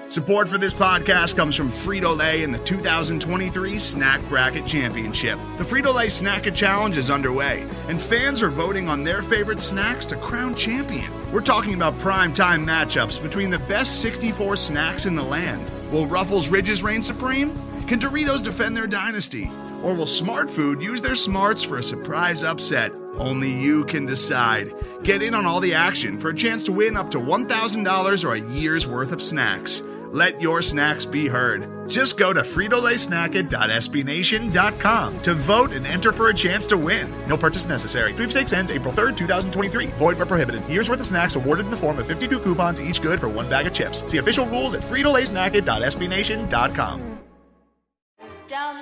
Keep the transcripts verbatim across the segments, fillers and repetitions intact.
Support for this podcast comes from Frito-Lay and the two thousand twenty-three Snack Bracket Championship. The Frito-Lay Snack-It Challenge is underway, and fans are voting on their favorite snacks to crown champion. We're talking about prime-time matchups between the best sixty-four snacks in the land. Will Ruffles Ridges reign supreme? Can Doritos defend their dynasty? Or will Smart Food use their smarts for a surprise upset? Only you can decide. Get in on all the action for a chance to win up to one thousand dollars or a year's worth of snacks. Let your snacks be heard. Just go to Frito Lay Snack It dot S B Nation dot com to vote and enter for a chance to win. No purchase necessary. Sweepstakes ends April third, twenty twenty-three. Void where prohibited. Year's worth of snacks awarded in the form of fifty-two coupons, each good for one bag of chips. See official rules at Frito Lay Snack It dot S B Nation dot com. Down.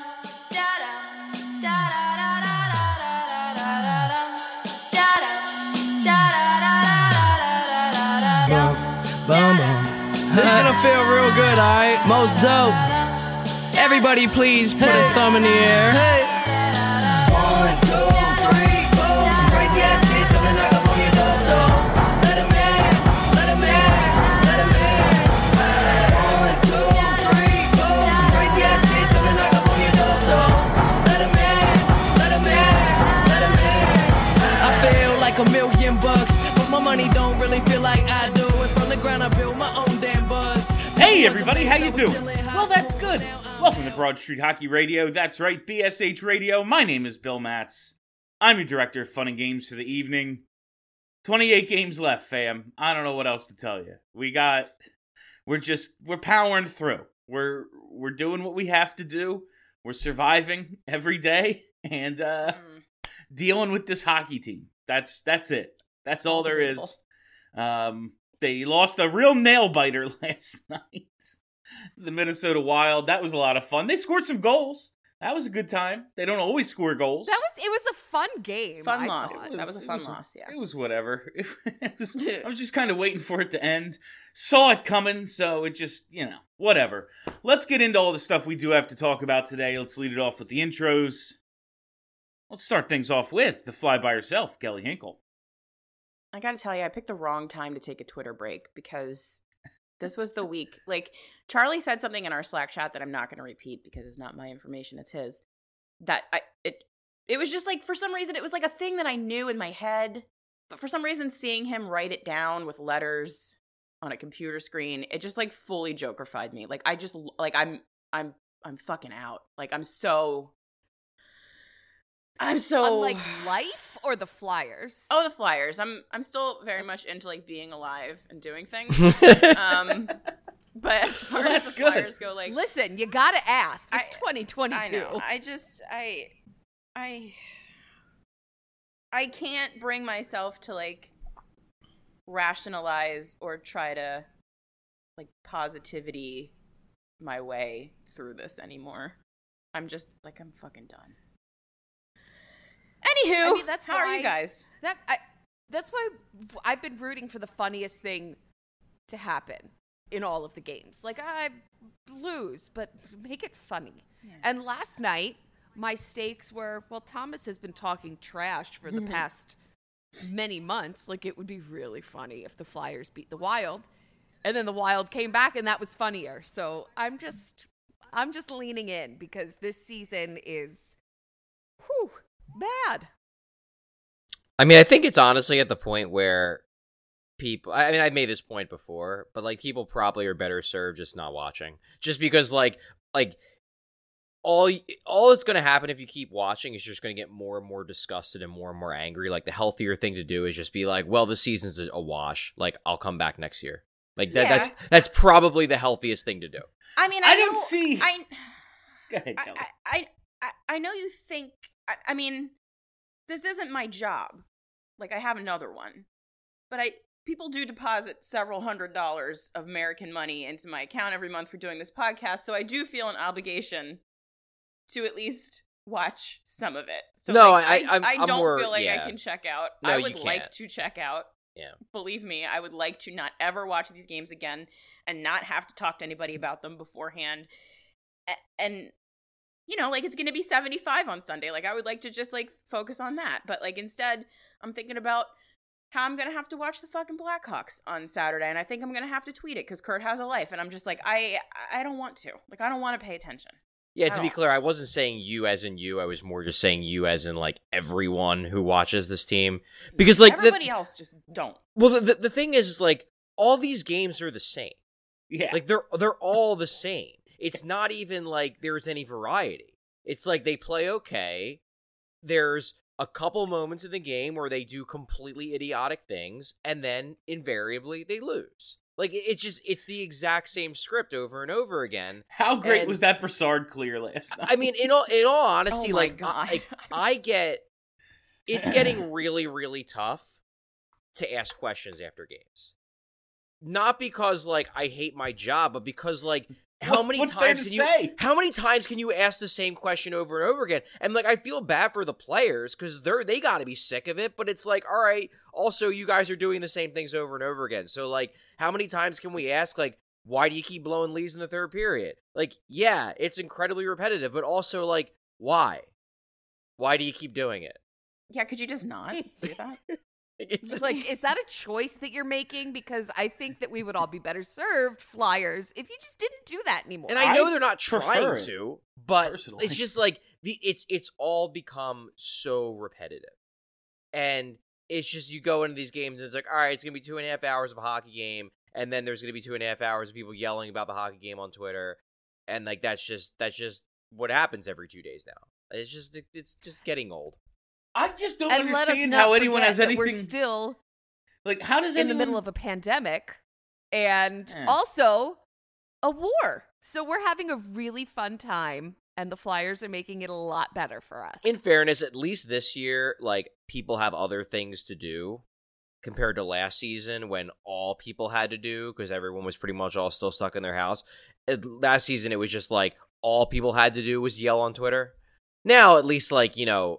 Boom, boom. This is gonna feel real good, alright? Most dope. Everybody please put hey. a thumb in the air. Hey. One, two, three, four. Some crazy ass kids coming knock up on your door. So let 'em in, let 'em in, let 'em in. One, two, three, four. Some crazy ass kids coming knock up on your door. So let 'em in, let 'em in, let 'em in. I feel like a million bucks, but my money don't really feel like I do. And from the ground I build my own damn buzz. Hey everybody, how you doing? Well, that's good. Welcome to Broad Street Hockey Radio. That's right, B S H Radio. My name is Bill Matz. I'm your director of fun and games for the evening. twenty-eight games left, fam. I don't know what else to tell you. We got, we're just, we're powering through. We're, we're doing what we have to do. We're surviving every day and uh, mm. dealing with this hockey team. That's, that's it. That's all there is. Um, they lost a real nail biter last night. The Minnesota Wild. That was a lot of fun. They scored some goals. That was a good time. They don't always score goals. That was it was a fun game. Fun I loss. thought. That was a fun was, loss, yeah. It was whatever. It, it was, I was just kind of waiting for it to end. Saw it coming, so it just, you know, whatever. Let's get into all the stuff we do have to talk about today. Let's lead it off with the intros. Let's start things off with the fly by herself, Kelly Hinkle. I gotta tell you, I picked the wrong time to take a Twitter break because this was the week. Like, Charlie said something in our Slack chat that I'm not going to repeat because it's not my information, it's his. That I it it was just like, for some reason, it was like a thing that I knew in my head. But for some reason, seeing him write it down with letters on a computer screen, it just like fully Joker-fied me. Like, I just, like, I'm, I'm, I'm fucking out. Like, I'm so... I'm so On, like, life or the Flyers? Oh, the Flyers. I'm I'm still very much into like being alive and doing things. um, but as far well, as the good. Flyers go, like, listen, you gotta ask. It's I, twenty twenty-two. I know. I just I I I can't bring myself to like rationalize or try to like positivity my way through this anymore. I'm just like I'm fucking done. Anywho, I mean, that's how are you guys? That I, that's why I've been rooting for the funniest thing to happen in all of the games. Like, I lose, but make it funny. Yeah. And last night, my stakes were, well, Thomas has been talking trash for the past many months. Like, it would be really funny if the Flyers beat the Wild. And then the Wild came back, and that was funnier. So I'm just, I'm just leaning in because this season is, whew, bad. I mean, I think it's honestly at the point where people, I mean, I've made this point before, but like people probably are better served just not watching. Just because like, like all, all that's going to happen if you keep watching is you're just going to get more and more disgusted and more and more angry. Like the healthier thing to do is just be like, well, the season's a wash. Like I'll come back next year. Like that, yeah. that's, that's probably the healthiest thing to do. I mean, I, I know, don't see. I, Go ahead, Kelly. I, I, I, I know you think, I, I mean, this isn't my job. Like, I have another one. But I people do deposit several hundred dollars of American money into my account every month for doing this podcast, so I do feel an obligation to at least watch some of it. So no, like, I, I, I'm, I I'm don't more, feel like yeah. I can check out. No, I you would can't. like to check out. Yeah. Believe me, I would like to not ever watch these games again and not have to talk to anybody about them beforehand. And, you know, like, it's going to be seventy-five on Sunday. Like, I would like to just, like, focus on that. But, like, instead, I'm thinking about how I'm going to have to watch the fucking Blackhawks on Saturday, and I think I'm going to have to tweet it because Kurt has a life, and I'm just like, I I don't want to. Like, I don't want to pay attention. Yeah, at to be all. clear, I wasn't saying you as in you. I was more just saying you as in, like, everyone who watches this team. Because, like, everybody the, else just don't. well, the, the the thing is, is, like, all these games are the same. Yeah. Like, they're they're all the same. It's not even like there's any variety. It's like they play okay. There's a couple moments in the game where they do completely idiotic things, and then invariably they lose. Like, it- it's just, it's the exact same script over and over again. How great And- was that Brassard clear last night? I mean, in all in all honesty, Oh my like, God. I, I get, it's getting really, really tough to ask questions after games. Not because, like, I hate my job, but because, like, how What- many what's there times to can you say? how many times can you ask the same question over and over again? And, like, I feel bad for the players because they're they got to be sick of it. But it's like, all right, also you guys are doing the same things over and over again. So, like, how many times can we ask, like, why do you keep blowing leads in the third period? Like, yeah, it's incredibly repetitive, but also, like, why? Why do you keep doing it? Yeah, could you just not do that? It's just Like, is that a choice that you're making? Because I think that we would all be better served, Flyers, if you just didn't do that anymore. And I know I they're not prefer trying it, to, but personally. it's just like the it's it's all become so repetitive. And it's just you go into these games and it's like, all right, it's gonna be two and a half hours of a hockey game, and then there's gonna be two and a half hours of people yelling about the hockey game on Twitter, and like that's just that's just what happens every two days now. It's just it's just getting old. I just don't and let us understand not how anyone forget has that anything. We're still like, how does in anyone? the middle of a pandemic and Eh. also a war. So we're having a really fun time, and the Flyers are making it a lot better for us. In fairness, at least this year, like, people have other things to do compared to last season when all people had to do, because everyone was pretty much all still stuck in their house. It, last season, it was just like all people had to do was yell on Twitter. Now, at least, like, you know,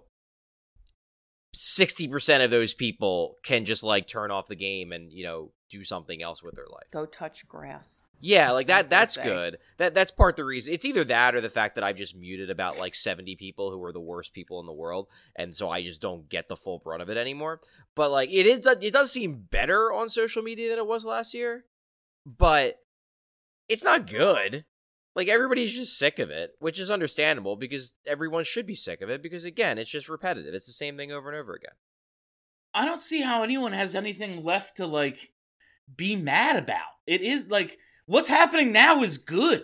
sixty percent of those people can just, like, turn off the game and, you know, do something else with their life. Go touch grass. Yeah, like as that. they That's say. good. That that's part of the reason. It's either that or the fact that I've just muted about like seventy people who are the worst people in the world, and so I just don't get the full brunt of it anymore. But like it is, it does seem better on social media than it was last year, but it's not good. Like everybody's just sick of it, which is understandable because everyone should be sick of it because again, it's just repetitive. It's the same thing over and over again. I don't see how anyone has anything left to like be mad about. It is like what's happening now is good.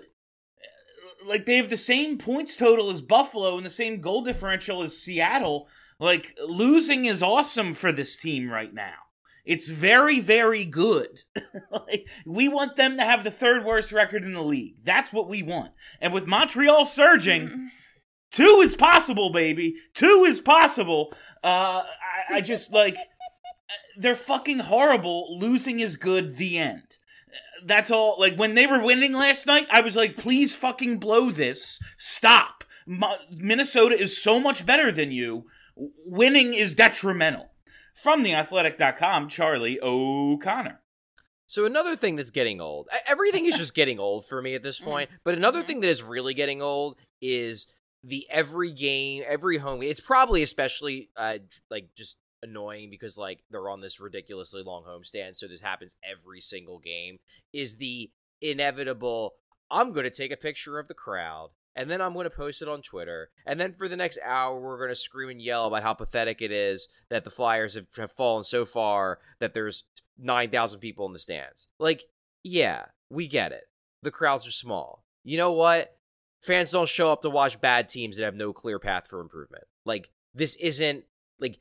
Like they have the same points total as Buffalo and the same goal differential as Seattle. Like losing is awesome for this team right now. It's very, very good. Like, we want them to have the third worst record in the league. That's what we want. And with Montreal surging, two is possible, baby. Two is possible. Uh, I, I just, like, they're fucking horrible. Losing is good. The end. That's all. Like, when they were winning last night, I was like, please fucking blow this. Stop. Mo- Minnesota is so much better than you. Winning is detrimental. From the athletic dot com, Charlie O'Connor. So another thing that's getting old, e- everything is just getting old for me at this point, but another thing that is really getting old is the every game, every home game. It's probably especially uh, like just annoying because like they're on this ridiculously long homestand, so this happens every single game, is the inevitable, I'm going to take a picture of the crowd, and then I'm going to post it on Twitter. And then for the next hour, we're going to scream and yell about how pathetic it is that the Flyers have, have fallen so far that there's nine thousand people in the stands. Like, yeah, we get it. The crowds are small. You know what? Fans don't show up to watch bad teams that have no clear path for improvement. Like, this isn't, like,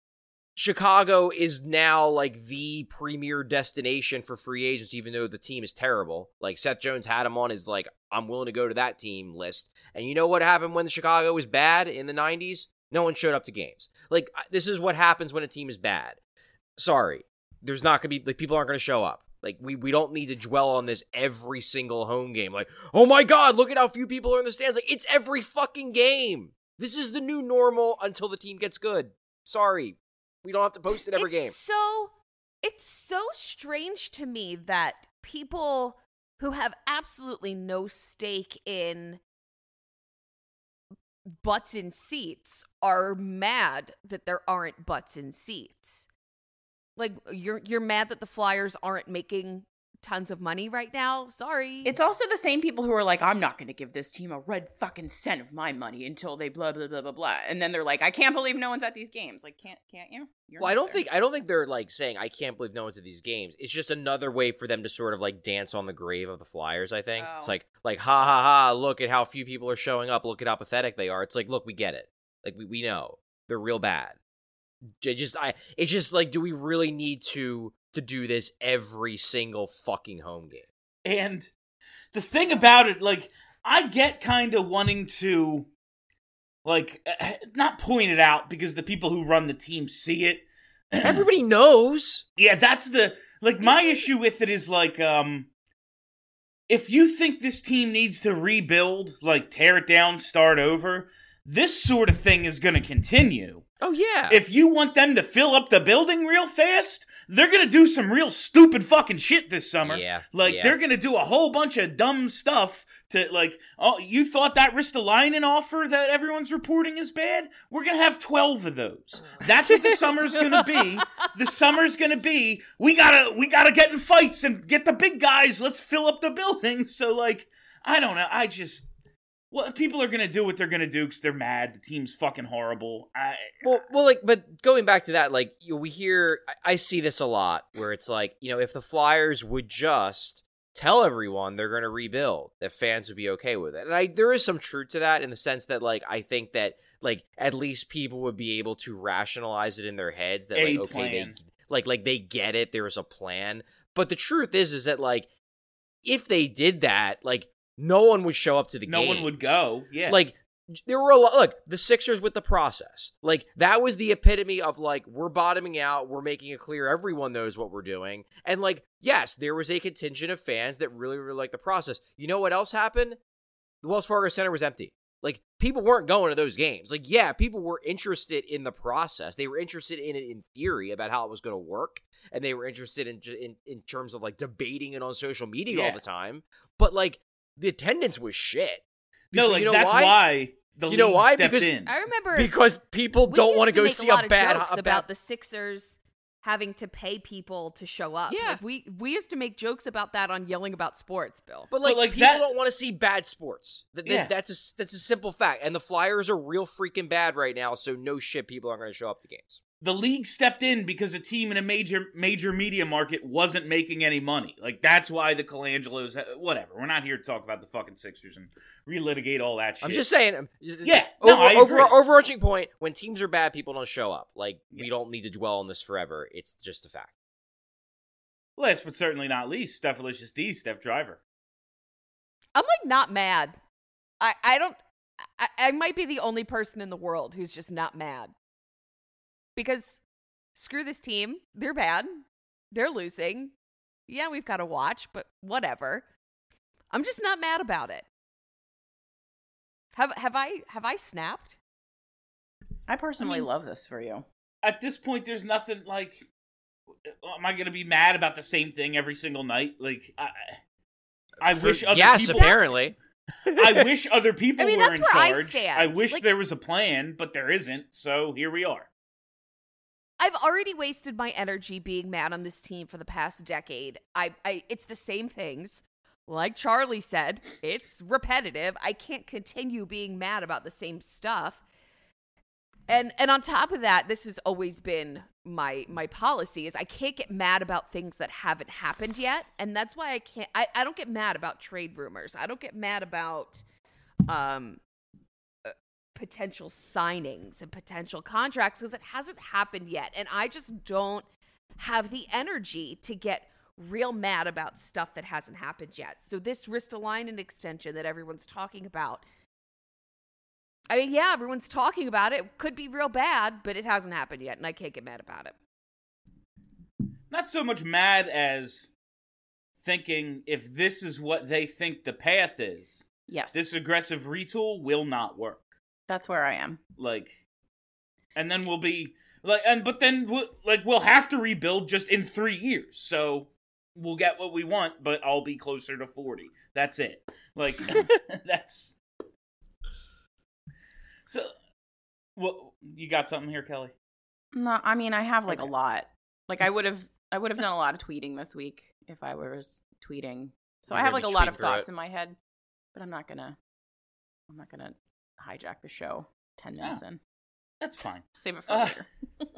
Chicago is now, like, the premier destination for free agents, even though the team is terrible. Like, Seth Jones had him on his, like, I'm willing to go to that team list. And you know what happened when the Chicago was bad in the nineties? No one showed up to games. Like, this is what happens when a team is bad. Sorry. There's not going to be, like, people aren't going to show up. Like, we, we don't need to dwell on this every single home game. Like, oh my God, look at how few people are in the stands. Like, it's every fucking game. This is the new normal until the team gets good. Sorry. We don't have to post it every it's game. So it's so strange to me that people who have absolutely no stake in butts in seats are mad that there aren't butts in seats. Like you're you're mad that the Flyers aren't making tons of money right now. Sorry. It's also the same people who are like, I'm not going to give this team a red fucking cent of my money until they blah blah blah blah blah, and then they're like, I can't believe no one's at these games. Like, can't can't you? You're well, I not don't there. think I don't think they're like saying I can't believe no one's at these games. It's just another way for them to sort of like dance on the grave of the Flyers. I think Oh. it's like like ha ha ha. Look at how few people are showing up. Look at how pathetic they are. It's like, look, we get it. Like we we know they're real bad. J- Just I. It's just like, do we really need to to do this every single fucking home game? And the thing about it, like, I get kind of wanting to, like, uh, not point it out because the people who run the team see it. Everybody knows. Yeah, that's the, like, my issue with it is, like, um, if you think this team needs to rebuild, like, tear it down, start over, this sort of thing is going to continue. Oh yeah. If you want them to fill up the building real fast, they're going to do some real stupid fucking shit this summer. Yeah, Like, yeah. they're going to do a whole bunch of dumb stuff to, like, oh, you thought that Ristolainen offer that everyone's reporting is bad? We're going to have twelve of those. That's what the summer's going to be. The summer's going to be, we got to we gotta get in fights and get the big guys. Let's fill up the building. So, like, I don't know. I just... Well, people are going to do what they're going to do because they're mad. The team's fucking horrible. I, Well, well, like, but going back to that, like, you know, we hear, I, I see this a lot, where it's like, you know, if the Flyers would just tell everyone they're going to rebuild, that fans would be okay with it. And I, there is some truth to that in the sense that, like, I think that, like, at least people would be able to rationalize it in their heads that, A like, okay, plan. they, like, like they get it. There was a plan. But the truth is, is that, like, if they did that, like, no one would show up to the no games. one would go. Yeah. Like, there were a lot, look, the Sixers with the process. Like, that was the epitome of, like, we're bottoming out, we're making it clear everyone knows what we're doing. And, like, yes, there was a contingent of fans that really, really liked the process. You know what else happened? The Wells Fargo Center was empty. Like, people weren't going to those games. Like, yeah, people were interested in the process. They were interested in it in theory about how it was going to work. And they were interested in, in, in terms of, like, debating it on social media Yeah. all the time. But, like, the attendance was shit. no, Because- like, you know that's why? why, the You know league why? stepped Because- in. I remember Because people we don't used want to go make see a lot a bad of jokes a about bad the Sixers having to pay people to show up. Yeah. Like, we we used to make jokes about that on Yelling About Sports, Bill. But like, But, like, people that- don't want to see bad sports. Th- th- Yeah. That's a that's a simple fact. And the Flyers are real freaking bad right now. So no shit, people aren't going to show up to games. The league stepped in because a team in a major major media market wasn't making any money. Like, that's why the Colangelos, whatever. We're not here to talk about the fucking Sixers and relitigate all that shit. I'm just saying. um, Yeah, Over, no, I over, agree. overarching point: when teams are bad, people don't show up. Like, we Yeah. don't need to dwell on this forever. It's just a fact. Last but certainly not least, Stephalicious D, Steph Driver. I'm like not mad. I I don't. I, I might be the only person in the world who's just not mad. Because screw this team. They're bad. They're losing. Yeah, we've got to watch, but whatever. I'm just not mad about it. Have have I have I snapped? I personally I mean- love this for you. At this point, there's nothing like. Am I going to be mad about the same thing every single night? Like, I, I For- wish other yes, people. apparently. I wish other people I mean, were that's in where I charge. stand. I wish Like- there was a plan, but there isn't. So here we are. I've already wasted my energy being mad on this team for the past decade. I, I it's the same things. Like Charlie said, it's repetitive. I can't continue being mad about the same stuff. And and on top of that, this has always been my my policy is I can't get mad about things that haven't happened yet. And that's why I can't I, I don't get mad about trade rumors. I don't get mad about um uh, potential signings and potential contracts because it hasn't happened yet. And I just don't have the energy to get real mad about stuff that hasn't happened yet. So this Ristolainen extension that everyone's talking about, I mean, yeah, everyone's talking about it. It could be real bad, but it hasn't happened yet, and I can't get mad about it. Not so much mad as thinking if this is what they think the path is, Yes. this aggressive retool will not work. That's where I am. Like, and then we'll be like, and but then we'll, like we'll have to rebuild just in three years. So we'll get what we want, but I'll be closer to forty. That's it. Like that's so. Well, you got something here, Kelly? No, I mean I have like Okay. a lot. Like I would have, I would have done a lot of tweeting this week if I was tweeting. So You're I have gonna like a be lot of tweeting through thoughts it. in my head, but I'm not gonna, I'm not gonna hijack the show ten minutes Oh. in. That's fine. Save it for Uh, later.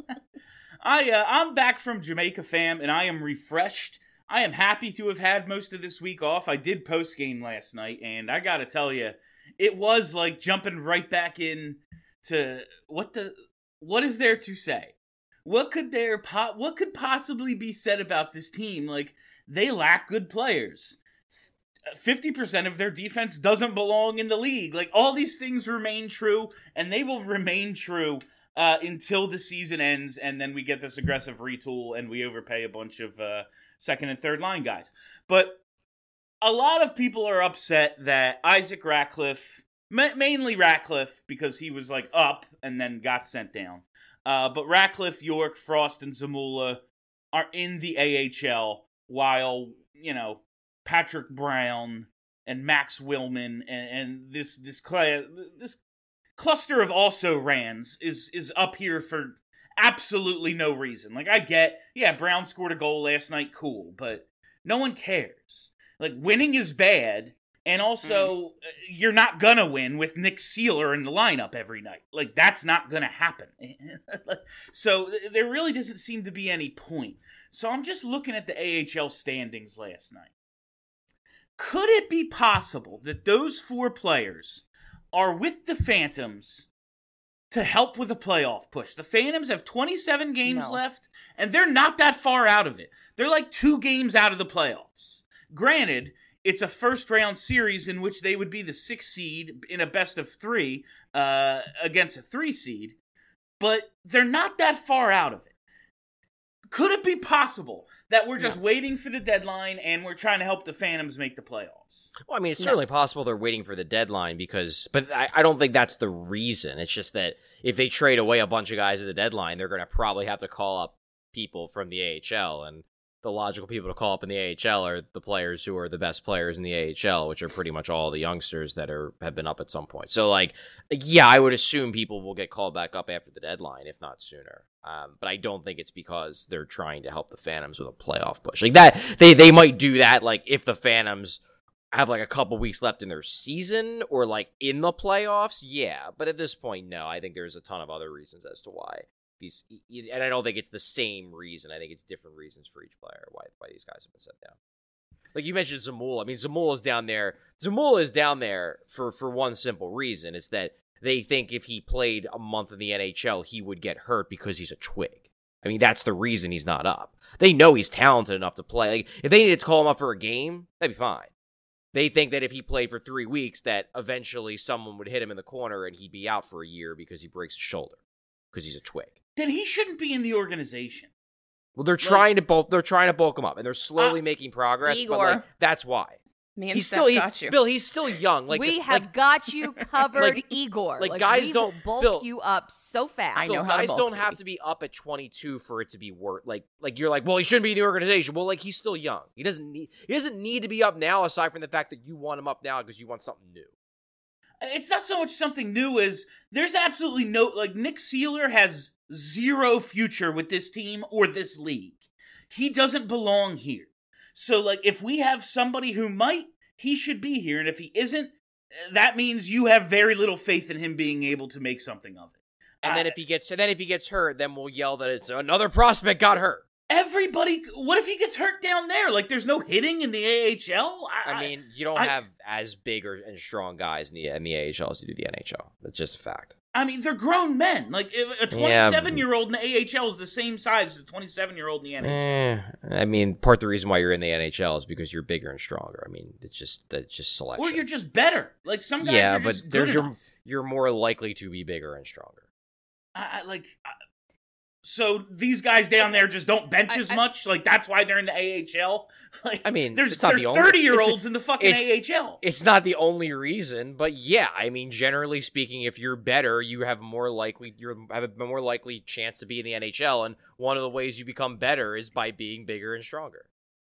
I uh, I'm back from Jamaica, fam, and I am refreshed. I am happy to have had most of this week off. I did post game last night, and I gotta tell you, it was like jumping right back in to what the what is there to say? What could there po- what could possibly be said about this team? Like, they lack good players. fifty percent of their defense doesn't belong in the league. Like, all these things remain true, and they will remain true uh, until the season ends, and then we get this aggressive retool, and we overpay a bunch of uh, second and third line guys. But a lot of people are upset that Isaac Ratcliffe, ma- mainly Ratcliffe, because he was, like, up and then got sent down. Uh, but Ratcliffe, York, Frost, and Zamula are in the A H L, while, you know, Patrick Brown and Max Willman and, and this this cl- this cluster of also rans is is up here for absolutely no reason. Like, I get, yeah, Brown scored a goal last night, cool, but no one cares. Like, winning is bad, and also mm. you're not gonna win with Nick Seeler in the lineup every night. Like, that's not gonna happen. So there really doesn't seem to be any point. So I'm just looking at the A H L standings last night. Could it be possible that those four players are with the Phantoms to help with a playoff push? The Phantoms have twenty-seven games No. left, and they're not that far out of it. They're like two games out of the playoffs. Granted, it's a first-round series in which they would be the sixth seed in a best of three uh, against a three seed, but they're not that far out of it. Could it be possible that we're just No. waiting for the deadline and we're trying to help the Phantoms make the playoffs? Well, I mean, it's No. certainly possible they're waiting for the deadline because, but I, I don't think that's the reason. It's just that if they trade away a bunch of guys at the deadline, they're going to probably have to call up people from the A H L, and the logical people to call up in the A H L are the players who are the best players in the A H L, which are pretty much all the youngsters that are have been up at some point. So, like, yeah, I would assume people will get called back up after the deadline, if not sooner. Um, but I don't think it's because they're trying to help the Phantoms with a playoff push. Like that, they they might do that, like, if the Phantoms have, like, a couple weeks left in their season or, like, in the playoffs, yeah. But at this point, no. I think there's a ton of other reasons as to why. He's, and I don't think it's the same reason. I think it's different reasons for each player why why these guys have been set down. Like you mentioned Zamula. I mean, Zamula is down there. Zamula is down there for, for one simple reason. It's that they think if he played a month in the N H L, he would get hurt because he's a twig. I mean, that's the reason he's not up. They know he's talented enough to play. Like, if they needed to call him up for a game, that'd be fine. They think that if he played for three weeks, that eventually someone would hit him in the corner and he'd be out for a year because he breaks his shoulder because he's a twig. Then he shouldn't be in the organization. Well, they're Like- trying to bulk. They're trying to bulk him up, and they're slowly Uh, making progress. Igor. But like, that's why Me and he's Steph still he- got you. Bill. He's still young. Like we like, have got you covered, like- Igor. like, guys we don't- will bulk Bill- you up so fast. I know Bill, how to guys bulk don't me. have to be up at twenty-two for it to be worth. Like like you're like, well, he shouldn't be in the organization. Well, like he's still young. He doesn't need. He doesn't need to be up now. Aside from the fact that you want him up now because you want something new. It's not so much something new as there's absolutely no, like, Nick Seeler has zero future with this team or this league. He doesn't belong here. So, like, if we have somebody who might, he should be here. And if he isn't, that means you have very little faith in him being able to make something of it. And then I- if he gets, and then if he gets hurt, then we'll yell that it's another prospect got hurt. Everybody, what if he gets hurt down there? Like, there's no hitting in the A H L? I mean, you don't I- have as big or and strong guys in the in the A H L as you do the N H L. That's just a fact. I mean, they're grown men. Like, if a twenty-seven-year-old in the A H L is the same size as a twenty-seven-year-old in the N H L. Eh, I mean, part of the reason why you're in the N H L is because you're bigger and stronger. I mean, it's just that's just selection. Or you're just better. Like, some guys yeah, are but just there's good you're enough. you're more likely to be bigger and stronger. I, I like, I, so these guys down there just don't bench I- as I- much. Like, that's why they're in the A H L. Like, I mean, there's it's not there's the only- thirty-year-olds it's- in the fucking it's- A H L. It's not the only reason, but yeah, I mean, generally speaking, if you're better, you have more likely you have a more likely chance to be in the N H L, and one of the ways you become better is by being bigger and stronger.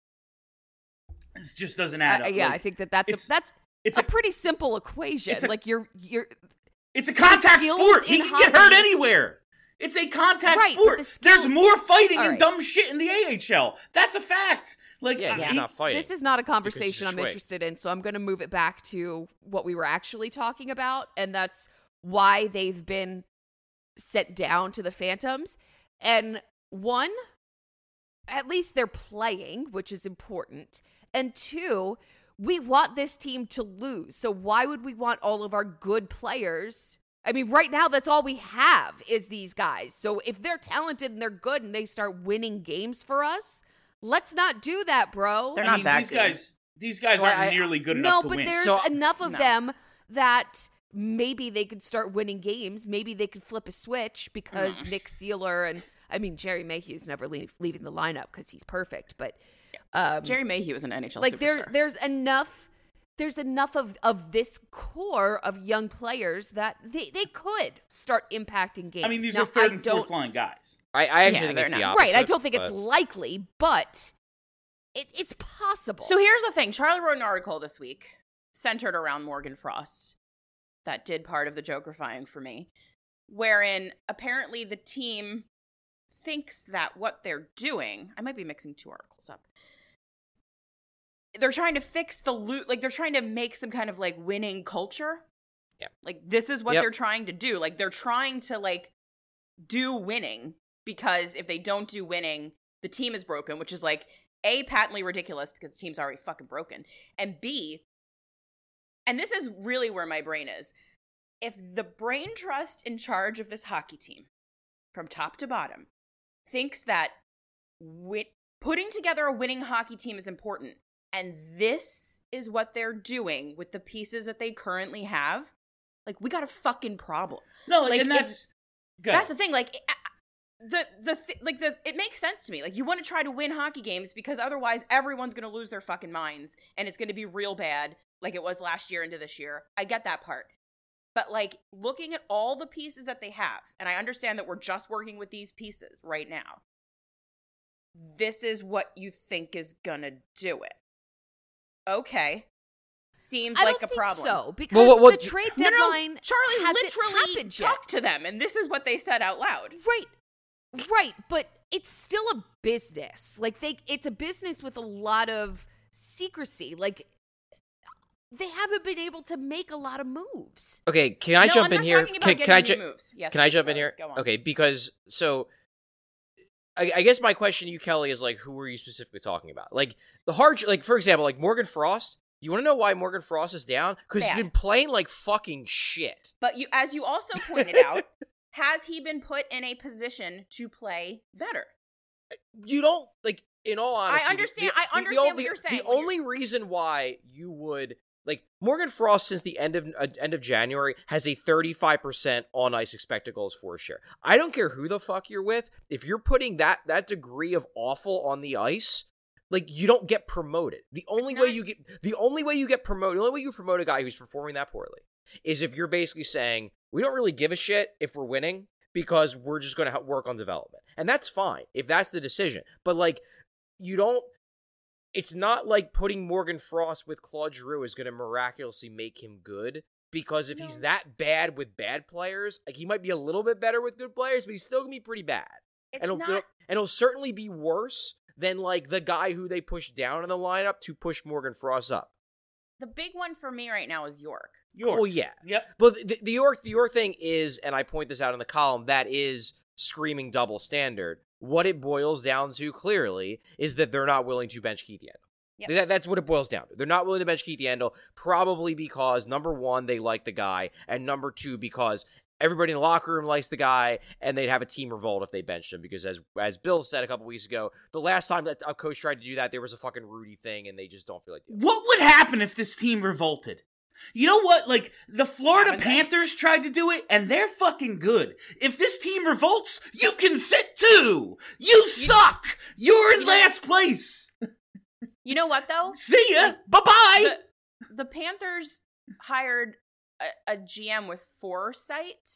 This just doesn't add Uh, up. yeah, Like, I think that that's it's- a, that's it's a, a pretty simple equation. it's a- like you're you're it's a contact skills sport. He in can get hurt hockey- anywhere. It's a contact Right, but sport. the skill- There's more fighting All and right. dumb shit in the A H L. That's a fact. Like, Yeah, I- he's he- not fighting. This is not a because conversation he's I'm a twig. interested in, so I'm going to move it back to what we were actually talking about, and that's why they've been sent down to the Phantoms. And one, at least they're playing, which is important. And two, we want this team to lose. So why would we want all of our good players? I mean, right now, that's all we have is these guys. So if they're talented and they're good and they start winning games for us, let's not do that, bro. They're I not mean, that these good. guys, these guys So aren't I- nearly good no, enough to but win. there's So- enough of No. them that maybe they could start winning games. Maybe they could flip a switch because Nick Sealer and, I mean, Jerry Mayhew's never leave, leaving the lineup because he's perfect. But um, Jerry Mayhew is an N H L like superstar. there, there's enough. There's enough of, of this core of young players that they, they could start impacting games. I mean, these Now, are third I and don't- fourth line guys. I, I actually Yeah, think they're it's the not. opposite. Right, I don't think it's but- likely, but it, it's possible. So here's the thing. Charlie wrote an article this week centered around Morgan Frost that did part of the Jokerifying for me, wherein apparently the team thinks that what they're doing, I might be mixing two articles up. They're trying to fix the loot, like they're trying to make some kind of like winning culture. Yeah. Like this is what Yep. they're trying to do. Like they're trying to like do winning because if they don't do winning, the team is broken, which is like A, patently ridiculous because the team's already fucking broken. And B, and this is really where my brain is. If the brain trust in charge of this hockey team, from top to bottom, thinks that wi- putting together a winning hockey team is important, and this is what they're doing with the pieces that they currently have, like, we got a fucking problem. No, like, Like, and if- that's good. That's the thing. Like, I- I- the the th- like the it makes sense to me. Like, you want to try to win hockey games because otherwise everyone's gonna lose their fucking minds and it's gonna be real bad, like it was last year into this year. I get that part, but like looking at all the pieces that they have, and I understand that we're just working with these pieces right now. This is what you think is gonna do it. Okay, seems I like don't a think problem. so because Well, what- what- the trade No, no, no, deadline Charlie hasn't literally happened yet. talked to them, and this is what they said out loud. Right. Right, but it's still a business. Like they it's a business with a lot of secrecy. Like they haven't been able to make a lot of moves. Okay, can I No, jump I'm in not here? talking about Can, getting can I any ju- moves. Yes, can I please, jump in Charlie, here? go on. Okay, because so I, I guess my question to you, Kelly, is like, who are you specifically talking about? Like the hard, like for example, like Morgan Frost. You want to know why Morgan Frost is down? Because he's Bad. been playing like fucking shit. But you, as you also pointed out, has he been put in a position to play better? You don't like. In all honesty, understand- the- I the- understand the, what you're saying The when only reason why you would like Morgan Frost since the end of uh, end of January has a thirty-five percent on ice expected goals for share. I don't care who the fuck you're with. If you're putting that that degree of awful on the ice, like you don't get promoted. The only It's way not- you get the only way you get promoted, the only way you promote a guy who's performing that poorly is if you're basically saying we don't really give a shit if we're winning because we're just going to work on development, and that's fine if that's the decision. But like you don't. It's not like putting Morgan Frost with Claude Giroux is going to miraculously make him good. Because if he's No. that bad with bad players, like he might be a little bit better with good players, but he's still gonna be pretty bad. It's and it'll, not. it'll- and it'll certainly be worse than like the guy who they pushed down in the lineup to push Morgan Frost up. The big one for me right now is York. York. Well, yeah, Yep. but the, the York the York thing is, and I point this out in the column, that is screaming double standard. What it boils down to clearly is that they're not willing to bench Keith Yandel. Yep. That, that's what it boils down to. They're not willing to bench Keith Yandel, probably because, number one, they like the guy, and number two, because everybody in the locker room likes the guy, and they'd have a team revolt if they benched him, because as as Bill said a couple weeks ago, the last time that a coach tried to do that, there was a fucking Rudy thing, and they just don't feel like doing it. What would happen if this team revolted? You know what? Like, the Florida Haven't they? Panthers tried to do it, and they're fucking good. If this team revolts, you can sit too! You suck! You're in You know- last place! You know what though? See ya! Bye-bye! The, the Panthers hired a, a G M with foresight,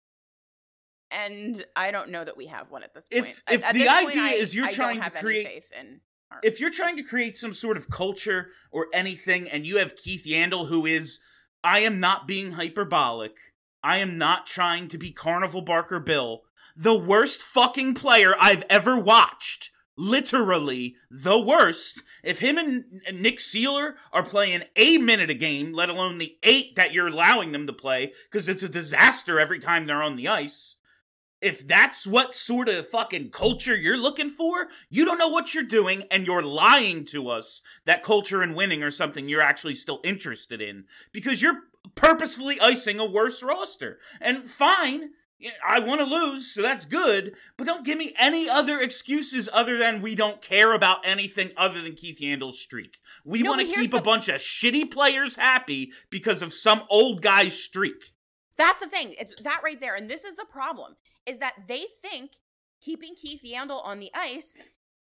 and I don't know that we have one at this If- point. if at, at the this point, idea I- is you're I trying don't have to any create- faith in. Our, If you're trying to create some sort of culture or anything, and you have Keith Yandel, who is, I am not being hyperbolic, I am not trying to be Carnival Barker Bill, the worst fucking player I've ever watched. Literally the worst. If him and Nick Seeler are playing a minute a game, let alone the eight that you're allowing them to play, because it's a disaster every time they're on the ice. If that's what sort of fucking culture you're looking for, you don't know what you're doing, and you're lying to us that culture and winning are something you're actually still interested in, because you're purposefully icing a worse roster. And fine, I want to lose, so that's good, but don't give me any other excuses other than we don't care about anything other than Keith Yandel's streak. We No, want to but here's keep a the- bunch of shitty players happy because of some old guy's streak. That's the thing. It's that right there. And this is the problem, is that they think keeping Keith Yandel on the ice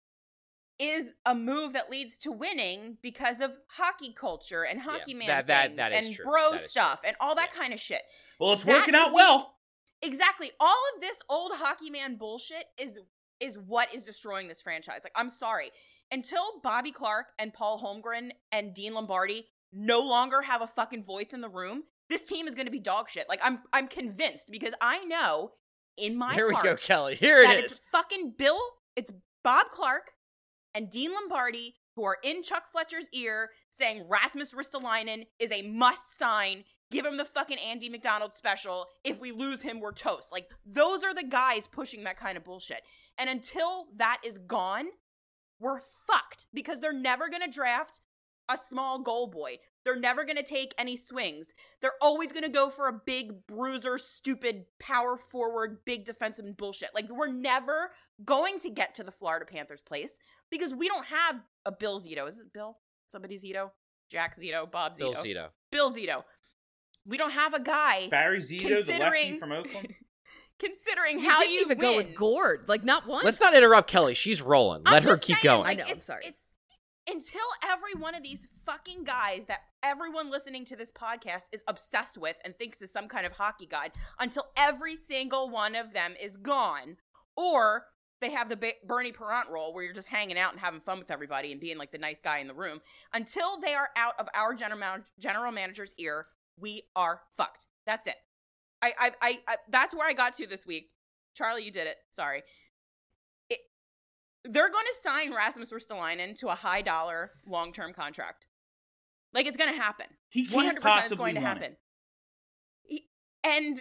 is a move that leads to winning because of hockey culture and hockey Yeah, man that- that- things that is and true. bro That is stuff true. and all that Yeah. kind of shit. Well, it's That working is out the- well. Exactly. All of this old hockey man bullshit is is what is destroying this franchise. Like, I'm sorry. Until Bobby Clark and Paul Holmgren and Dean Lombardi no longer have a fucking voice in the room, this team is going to be dog shit. Like, I'm I'm convinced, because I know in my Here we heart go, Kelly. Here that it it's is. fucking Bill, it's Bob Clark and Dean Lombardi who are in Chuck Fletcher's ear saying Rasmus Ristolainen is a must sign. Give him the fucking Andy McDonald special. If we lose him, we're toast. Like, those are the guys pushing that kind of bullshit. And until that is gone, we're fucked, because they're never going to draft a small goal boy. They're never going to take any swings. They're always going to go for a big bruiser, stupid power forward, big defensive bullshit. Like, we're never going to get to the Florida Panthers place because we don't have a Bill Zito. Is it Bill? Somebody Zito? Jack Zito? Bob Zito? Bill Zito. Bill Zito. We don't have a guy Barry Zito, the lefty considering- from Oakland. considering You how didn't you even go win. with Gord, like not once. Let's not interrupt Kelly. She's rolling. I'm Let her just keep saying, going. Like, I know, I'm it's, sorry. It's until every one of these fucking guys that everyone listening to this podcast is obsessed with and thinks is some kind of hockey god, until every single one of them is gone, or they have the ba- Bernie Parent role where you're just hanging out and having fun with everybody and being like the nice guy in the room. Until they are out of our general man- general manager's ear, we are fucked. That's it. I, I, I, I that's where I got to this week. Charlie, you did it. Sorry. It, they're going to sign Rasmus Ristolainen to a high dollar long term contract. Like, it's going to happen. He can't one hundred percent possibly it's going to want it. happen. He, and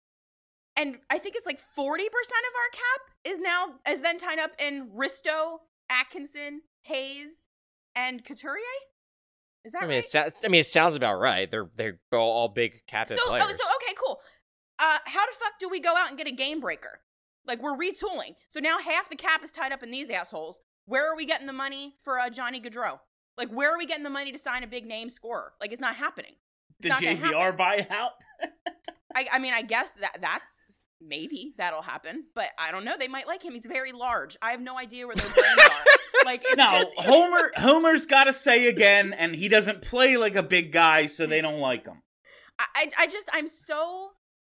and I think it's like forty percent of our cap is now is then tied up in Risto, Atkinson, Hayes, and Couturier. Is that I mean, right? it sounds. I mean, it sounds about right. They're they're all, all big captain So, players. oh, so okay, cool. Uh, how the fuck do we go out and get a game breaker? Like, we're retooling. So now half the cap is tied up in these assholes. Where are we getting the money for uh, Johnny Gaudreau? Like, where are we getting the money to sign a big name scorer? Like, it's not happening. It's The not J gonna V R happen. buyout. I, I mean, I guess that that's maybe that'll happen, but I don't know. They might like him. He's very large. I have no idea where their brains are. Like, it's No, just, Homer. Homer's got to say again, and he doesn't play like a big guy, so they don't like him. I, I I just I'm so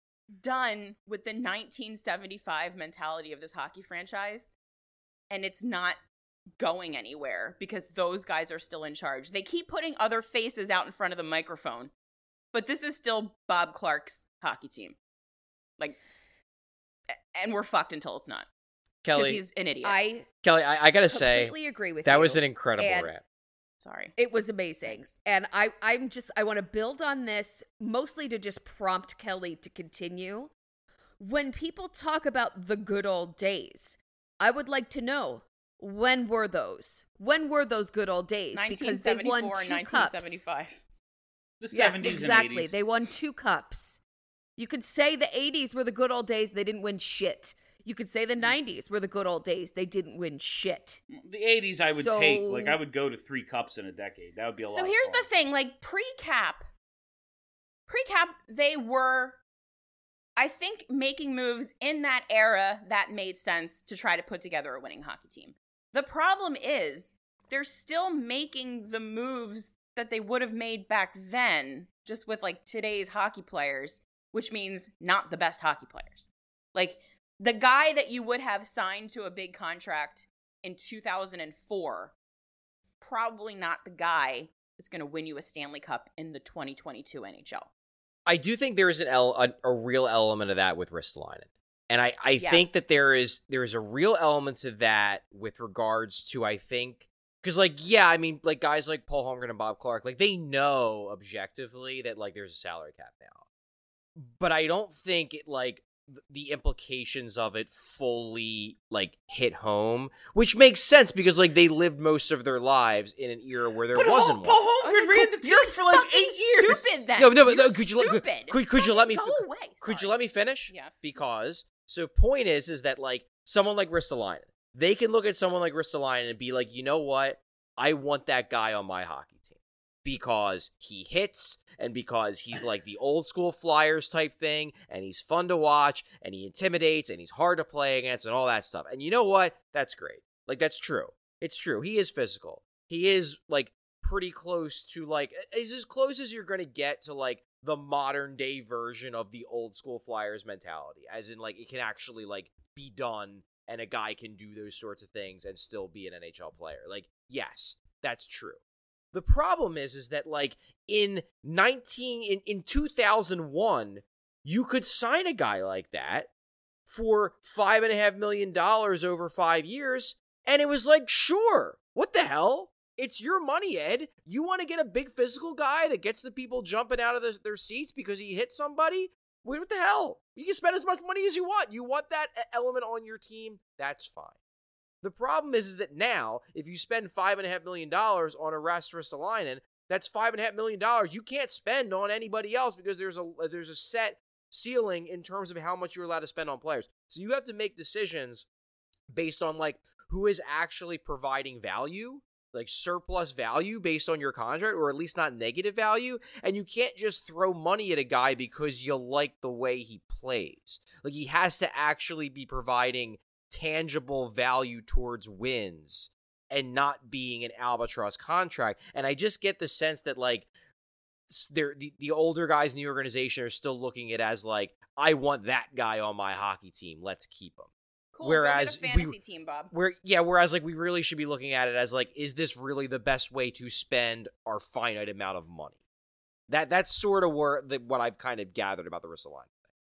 done with the nineteen seventy-five mentality of this hockey franchise, and it's not going anywhere because those guys are still in charge. They keep putting other faces out in front of the microphone, but this is still Bob Clark's hockey team. Like, and we're fucked until it's not. Because Kelly, he's an idiot. I Kelly, I, I gotta say completely agree with that you. was an incredible And- rant. Sorry. It was amazing. And I, I'm just, I want to build on this mostly to just prompt Kelly to continue. When people talk about the good old days, I would like to know, when were those? When were those good old days? Because they won nineteen seventy-four and two nineteen cups. seventy-five. The Yeah, seventies exactly. and eighties. They won two cups. You could say the eighties were the good old days. They didn't win shit. You could say the nineties were the good old days. They didn't win shit. The eighties I would So- take. Like, I would go to three cups in a decade. That would be a lot. So of here's fun. the thing, like pre-cap, pre-cap, they were, I think, making moves in that era that made sense to try to put together a winning hockey team. The problem is they're still making the moves that they would have made back then, just with like today's hockey players, which means not the best hockey players. Like, the guy that you would have signed to a big contract in two thousand four is probably not the guy that's going to win you a Stanley Cup in the twenty twenty-two N H L. I do think there is an el- a, a real element of that with Ristolainen. And I, I Yes. think that there is there is a real element to that with regards to, I think, because, like, yeah, I mean, like, guys like Paul Holmgren and Bob Clark, like, they know objectively that, like, there's a salary cap now. But I don't think it, like, th- the implications of it fully, like, hit home, which makes sense because, like, they lived most of their lives in an era where there But wasn't Paul, Paul one. Holmgren ran the team You're for like fucking eight years. Stupid, then. No, no, but You're no, could you let- could- stupid. could- could you let me Fucking fi- go away. Could you Sorry. let me finish? Yes. Because, so point is, is that, like, someone like Ristolainen, they can look at someone like Ristolainen and be like, you know what? I want that guy on my hockey team. Because he hits, and because he's like the old school Flyers type thing, and he's fun to watch, and he intimidates, and he's hard to play against, and all that stuff. And you know what? That's great. Like, that's true. It's true. He is physical. He is, like, pretty close to, like, is as close as you're going to get to, like, the modern day version of the old school Flyers mentality. As in, like, it can actually, like, be done, and a guy can do those sorts of things and still be an N H L player. Like, yes, that's true. The problem is, is that, like, in nineteen in, in two thousand one, you could sign a guy like that for five and a half million dollars over five years, and it was like, sure, what the hell? It's your money, Ed. You want to get a big physical guy that gets the people jumping out of the, their seats because he hit somebody? Wait, what the hell? You can spend as much money as you want. You want that e- element on your team? That's fine. The problem is, is that now, if you spend five and a half million dollars on a Ristolainen, that's five and a half million dollars you can't spend on anybody else because there's a there's a set ceiling in terms of how much you're allowed to spend on players. So you have to make decisions based on, like, who is actually providing value, like surplus value based on your contract, or at least not negative value. And you can't just throw money at a guy because you like the way he plays. Like, he has to actually be providing tangible value towards wins and not being an albatross contract. And I just get the sense that, like, they're, the, the older guys in the organization are still looking at it as, like, I want that guy on my hockey team. Let's keep him. Cool. Whereas go get a fantasy we- team, Bob. Where yeah, whereas, like, we really should be looking at it as, like, is this really the best way to spend our finite amount of money? That that's sort of where the, what I've kind of gathered about the Ristolainen thing.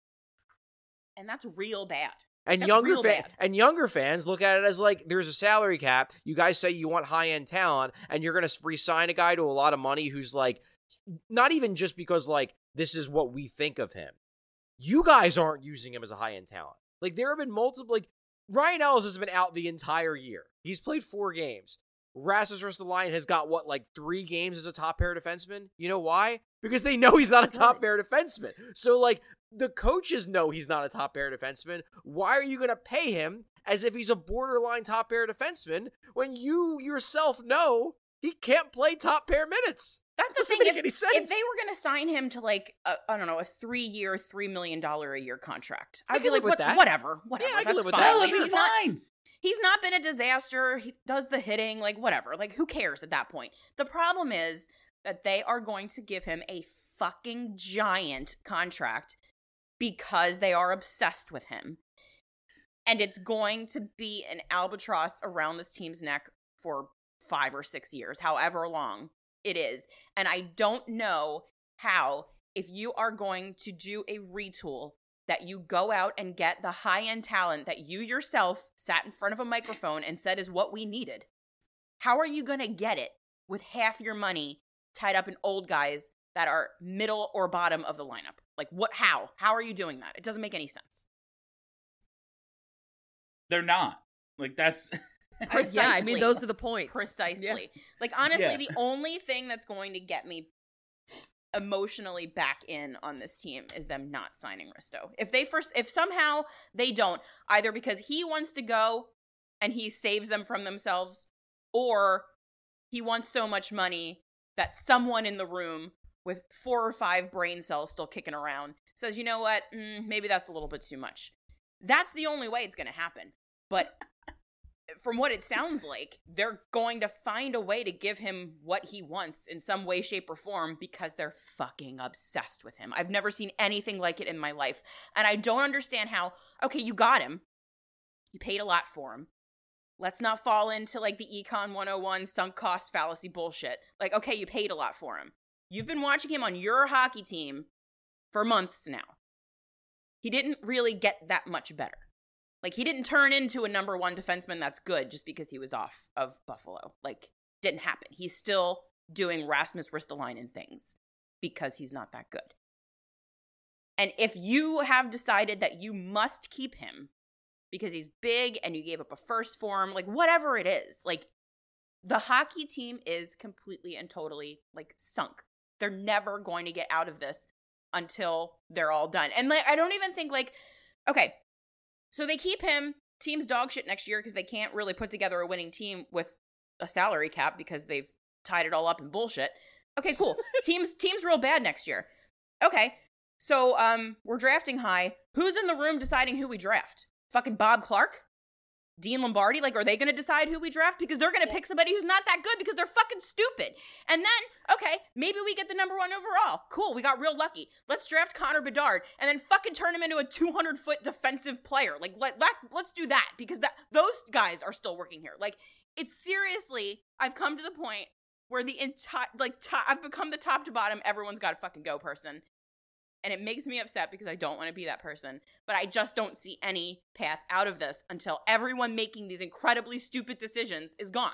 And that's real bad. And That's younger real fan, bad. and younger fans look at it as, like, there's a salary cap. You guys say you want high end talent, and you're going to re-sign a guy to a lot of money who's, like, not even just because, like, this is what we think of him. You guys aren't using him as a high end talent. Like, there have been multiple, like, Ryan Ellis has been out the entire year. He's played four games. Rasmus Ristolainen has got, what, like, three games as a top pair defenseman? You know why? Because they know he's not a top pair defenseman. So, like, the coaches know he's not a top pair defenseman. Why are you going to pay him as if he's a borderline top pair defenseman when you yourself know he can't play top pair minutes? That's the Doesn't thing. make If, any sense. if they were going to sign him to, like, a, I don't know, a three-year, three million dollar a year contract, I I'd can be live like, with what, that. whatever, whatever. Yeah, I can that's live with fine. that. That Like, would be he's not, fine. he's not been a disaster. He does the hitting, like, whatever. Like, who cares at that point? The problem is that they are going to give him a fucking giant contract because they are obsessed with him. And it's going to be an albatross around this team's neck for five or six years, however long it is. And I don't know how, if you are going to do a retool, that you go out and get the high-end talent that you yourself sat in front of a microphone and said is what we needed. How are you going to get it with half your money tied up in old guys that are middle or bottom of the lineup? Like, what? How? How are you doing that? It doesn't make any sense. They're not. Like, that's Precisely. Yeah, I mean, those are the points. Precisely. Yeah. Like, honestly, Yeah. the only thing that's going to get me emotionally back in on this team is them not signing Risto. If they first, if somehow they don't, either because he wants to go and he saves them from themselves, or he wants so much money that someone in the room with four or five brain cells still kicking around says, you know what, mm, maybe that's a little bit too much. That's the only way it's going to happen. But from what it sounds like, they're going to find a way to give him what he wants in some way, shape, or form because they're fucking obsessed with him. I've never seen anything like it in my life. And I don't understand how, okay, you got him. You paid a lot for him. Let's not fall into, like, the Econ one oh one sunk cost fallacy bullshit. Like, okay, you paid a lot for him. You've been watching him on your hockey team for months now. He didn't really get that much better. Like, he didn't turn into a number one defenseman that's good just because he was off of Buffalo. Like, didn't happen. He's still doing Rasmus Ristolainen things because he's not that good. And if you have decided that you must keep him because he's big and you gave up a first for him, like, whatever it is, like, the hockey team is completely and totally, like, sunk. They're never going to get out of this until they're all done. And, like, I don't even think, like, okay, so they keep him, team's dog shit next year because they can't really put together a winning team with a salary cap because they've tied it all up in bullshit. Okay, cool. team's team's real bad next year. Okay, so um, we're drafting high. Who's in the room deciding who we draft? Fucking Bob Clark? Dean Lombardi? Like, are they going to decide who we draft? Because they're going to pick somebody who's not that good because they're fucking stupid. And then, okay, maybe we get the number one overall. Cool, we got real lucky. Let's draft Connor Bedard and then fucking turn him into a two hundred foot defensive player. Like, let, let's let's do that because that those guys are still working here. Like, it's seriously, I've come to the point where the entire, like, top, I've become the top to bottom, everyone's got to fucking go person. And it makes me upset because I don't want to be that person. But I just don't see any path out of this until everyone making these incredibly stupid decisions is gone.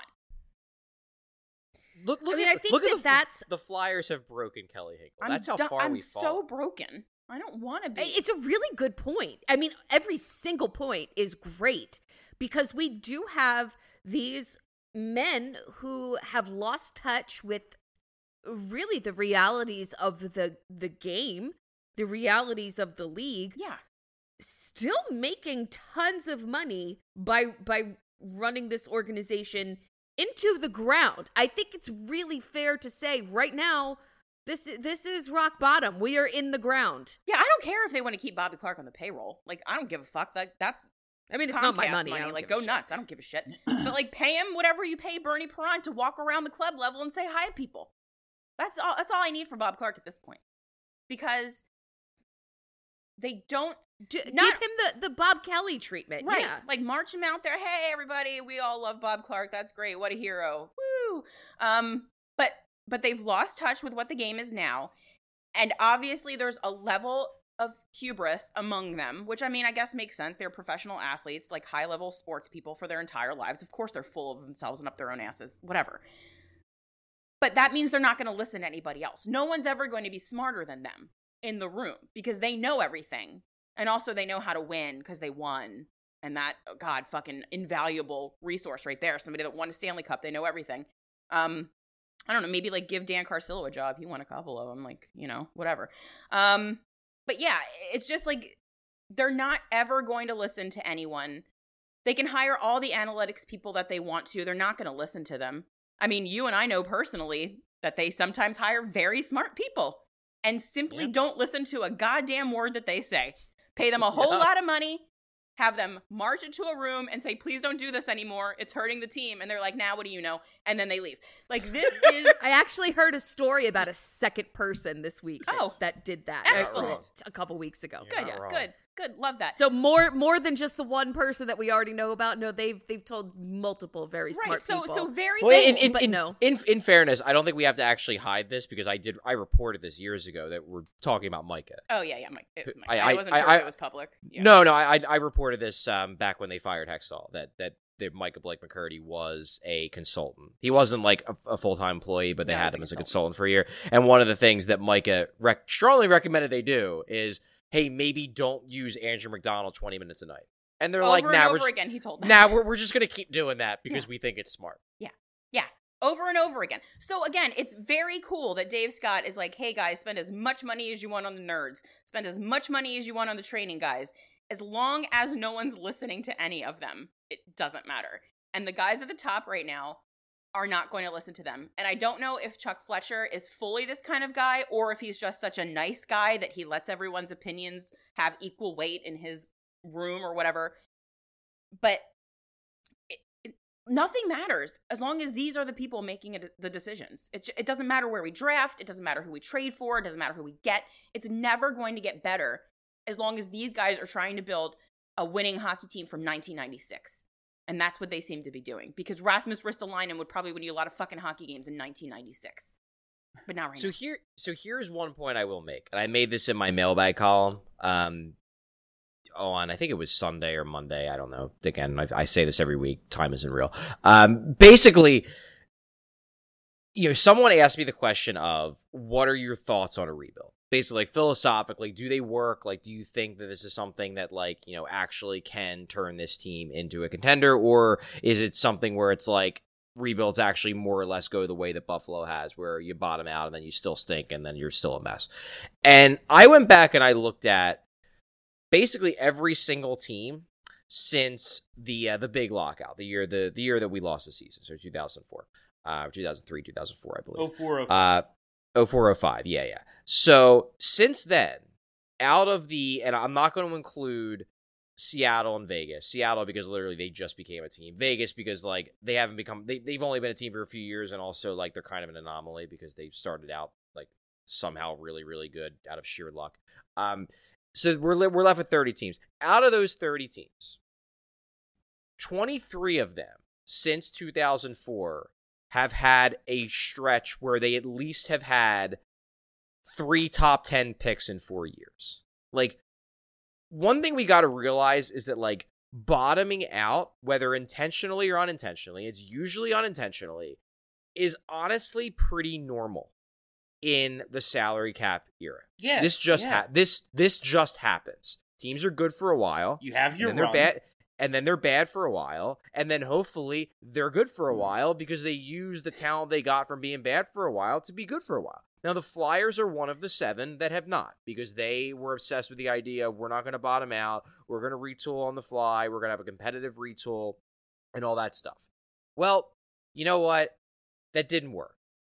Look, look I mean, at, I think look that at the, that's- the Flyers have broken Kelly Hinkle. I'm That's how do- far I'm we fall. so broken. I don't want to be. It's a really good point. I mean, every single point is great because we do have these men who have lost touch with really the realities of the the game, the realities of the league. Yeah. Still making tons of money by by running this organization into the ground. I think it's really fair to say right now this this is rock bottom. We are in the ground. Yeah, I don't care if they want to keep Bobby Clark on the payroll. Like, I don't give a fuck. Like, that's I mean, it's not my Comcast money. I don't Like, give a go shit. nuts. I don't give a shit. But, like, pay him whatever you pay Bernie Perron to walk around the club level and say hi to people. That's all. That's all I need from Bob Clark at this point, because they don't Do, not- give him the, the Bob Kelly treatment. right. Yeah. Like, march him out there. Hey, everybody, we all love Bob Clark. That's great. What a hero. Woo. Um, but but they've lost touch with what the game is now, and obviously there's a level of hubris among them, which, I mean, I guess makes sense. They're professional athletes, like high-level sports people for their entire lives. Of course they're full of themselves and up their own asses, whatever. But that means they're not going to listen to anybody else. No one's ever going to be smarter than them in the room because they know everything. And also they know how to win because they won. And that, oh God, fucking invaluable resource right there. Somebody that won a Stanley Cup, they know everything. Um, I don't know, maybe like give Dan Carcillo a job. He won a couple of them, like, you know, whatever. Um, but yeah, it's just like they're not ever going to listen to anyone. They can hire all the analytics people that they want to. They're not going to listen to them. I mean, you and I know personally that they sometimes hire very smart people and simply Yep. don't listen to a goddamn word that they say. Pay them a whole Yep. lot of money, have them march into a room and say, please don't do this anymore. It's hurting the team. And they're like, now, nah, what do you know? And then they leave. Like, this is... I actually heard a story about a second person this week that, Oh. that did that. Excellent. A couple weeks ago. You're good, not wrong. good, good. Love that. So more more than just the one person that we already know about. No, they've they've told multiple very right. smart So, people. so very Well, in, basic. in, but in, no. in, in fairness, I don't think we have to actually hide this because I did. I reported this years ago that we're talking about Micah. Oh, yeah, yeah. Mike, it was Mike. I- I, I- wasn't I- sure I- if it was public. Yeah. No, no, I I I reported this um, back when they fired Hextall that that that Micah Blake McCurdy was a consultant. He wasn't like a, a full time employee, but they No, had he's a him as a consultant. consultant for a year. And one of the things that Micah rec- strongly recommended they do is, hey, maybe don't use Andrew McDonald twenty minutes a night. And they're Over like, and nah, over we're just, again, he told them. nah, we're we're just gonna keep doing that because Yeah. we think it's smart. Yeah, over and over again. So again, it's very cool that Dave Scott is like, hey guys, spend as much money as you want on the nerds. Spend as much money as you want on the training guys. As long as no one's listening to any of them, it doesn't matter. And the guys at the top right now are not going to listen to them. And I don't know if Chuck Fletcher is fully this kind of guy or if he's just such a nice guy that he lets everyone's opinions have equal weight in his room or whatever. But it, it, nothing matters as long as these are the people making it, the decisions. It, it doesn't matter where we draft. It doesn't matter who we trade for. It doesn't matter who we get. It's never going to get better as long as these guys are trying to build a winning hockey team from nineteen ninety-six. And that's what they seem to be doing. Because Rasmus Ristolainen would probably win you a lot of fucking hockey games in nineteen ninety-six. But not right So now. here, so here's one point I will make, and I made this in my mailbag column. Um, on, I think it was Sunday or Monday. I don't know. Again, I, I say this every week. Time isn't real. Um, basically, you know, someone asked me the question of, what are your thoughts on a rebuild? Basically, like, philosophically, do they work? Like, do you think that this is something that, like, you know, actually can turn this team into a contender? Or is it something where it's like, rebuilds actually more or less go the way that Buffalo has, where you bottom out and then you still stink and then you're still a mess? And I went back and I looked at basically every single team since the uh, the big lockout, the year the the year that we lost the season, so two thousand four, uh, two thousand three, two thousand four, I believe. oh four oh five. Uh, oh four oh five, yeah, yeah. So since then, out of the, and I'm not going to include Seattle and Vegas. Seattle because literally they just became a team. Vegas because like they haven't become, they, they've only been a team for a few years, and also like they're kind of an anomaly because they started out like somehow really, really good out of sheer luck. Um, so we're we're left with thirty teams. Out of those thirty teams, twenty-three of them since two thousand four have had a stretch where they at least have had three top ten picks in four years. Like, one thing we got to realize is that, like, bottoming out, whether intentionally or unintentionally, it's usually unintentionally, is honestly pretty normal in the salary cap era. Yeah, this just yeah. ha- this this just happens. Teams are good for a while. You have your and then run. they're bad, and then they're bad for a while, and then hopefully they're good for a while because they use the talent they got from being bad for a while to be good for a while. Now, the Flyers are one of the seven that have not, because they were obsessed with the idea of, we're not going to bottom out, we're going to retool on the fly, we're going to have a competitive retool, and all that stuff. Well, you know what? That didn't work.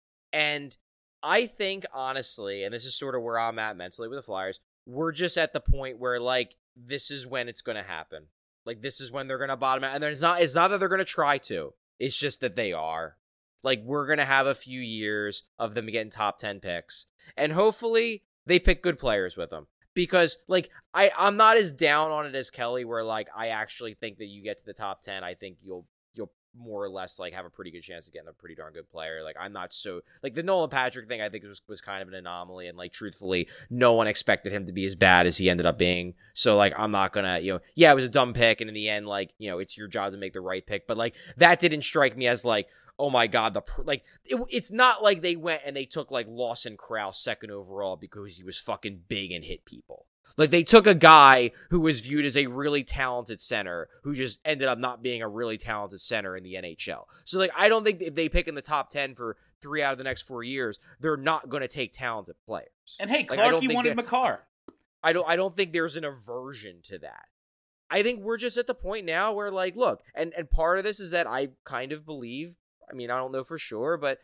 And I think, honestly, and this is sort of where I'm at mentally with the Flyers, we're just at the point where, like, this is when it's going to happen. Like, this is when they're going to bottom out. And it's not, it's not that they're going to try to. It's just that they are. Like, we're going to have a few years of them getting top ten picks. And hopefully they pick good players with them. Because, like, I, I'm not as down on it as Kelly, where, like, I actually think that you get to the top ten, I think you'll you'll more or less, like, have a pretty good chance of getting a pretty darn good player. Like, I'm not so... Like, the Nolan Patrick thing, I think, was, was kind of an anomaly. And, like, truthfully, no one expected him to be as bad as he ended up being. So, like, I'm not gonna, you know... Yeah, it was a dumb pick, and in the end, like, you know, it's your job to make the right pick. But, like, that didn't strike me as, like... Oh my God, the like it, it's not like they went and they took like Lawson Krause second overall because he was fucking big and hit people. Like, they took a guy who was viewed as a really talented center who just ended up not being a really talented center in the N H L. So, like, I don't think if they pick in the top ten for three out of the next four years, they're not going to take talented players. And hey, like, Clark, you wanted McCarr. I don't. I don't think there's an aversion to that. I think we're just at the point now where, like, look, and and part of this is that I kind of believe. I mean, I don't know for sure, but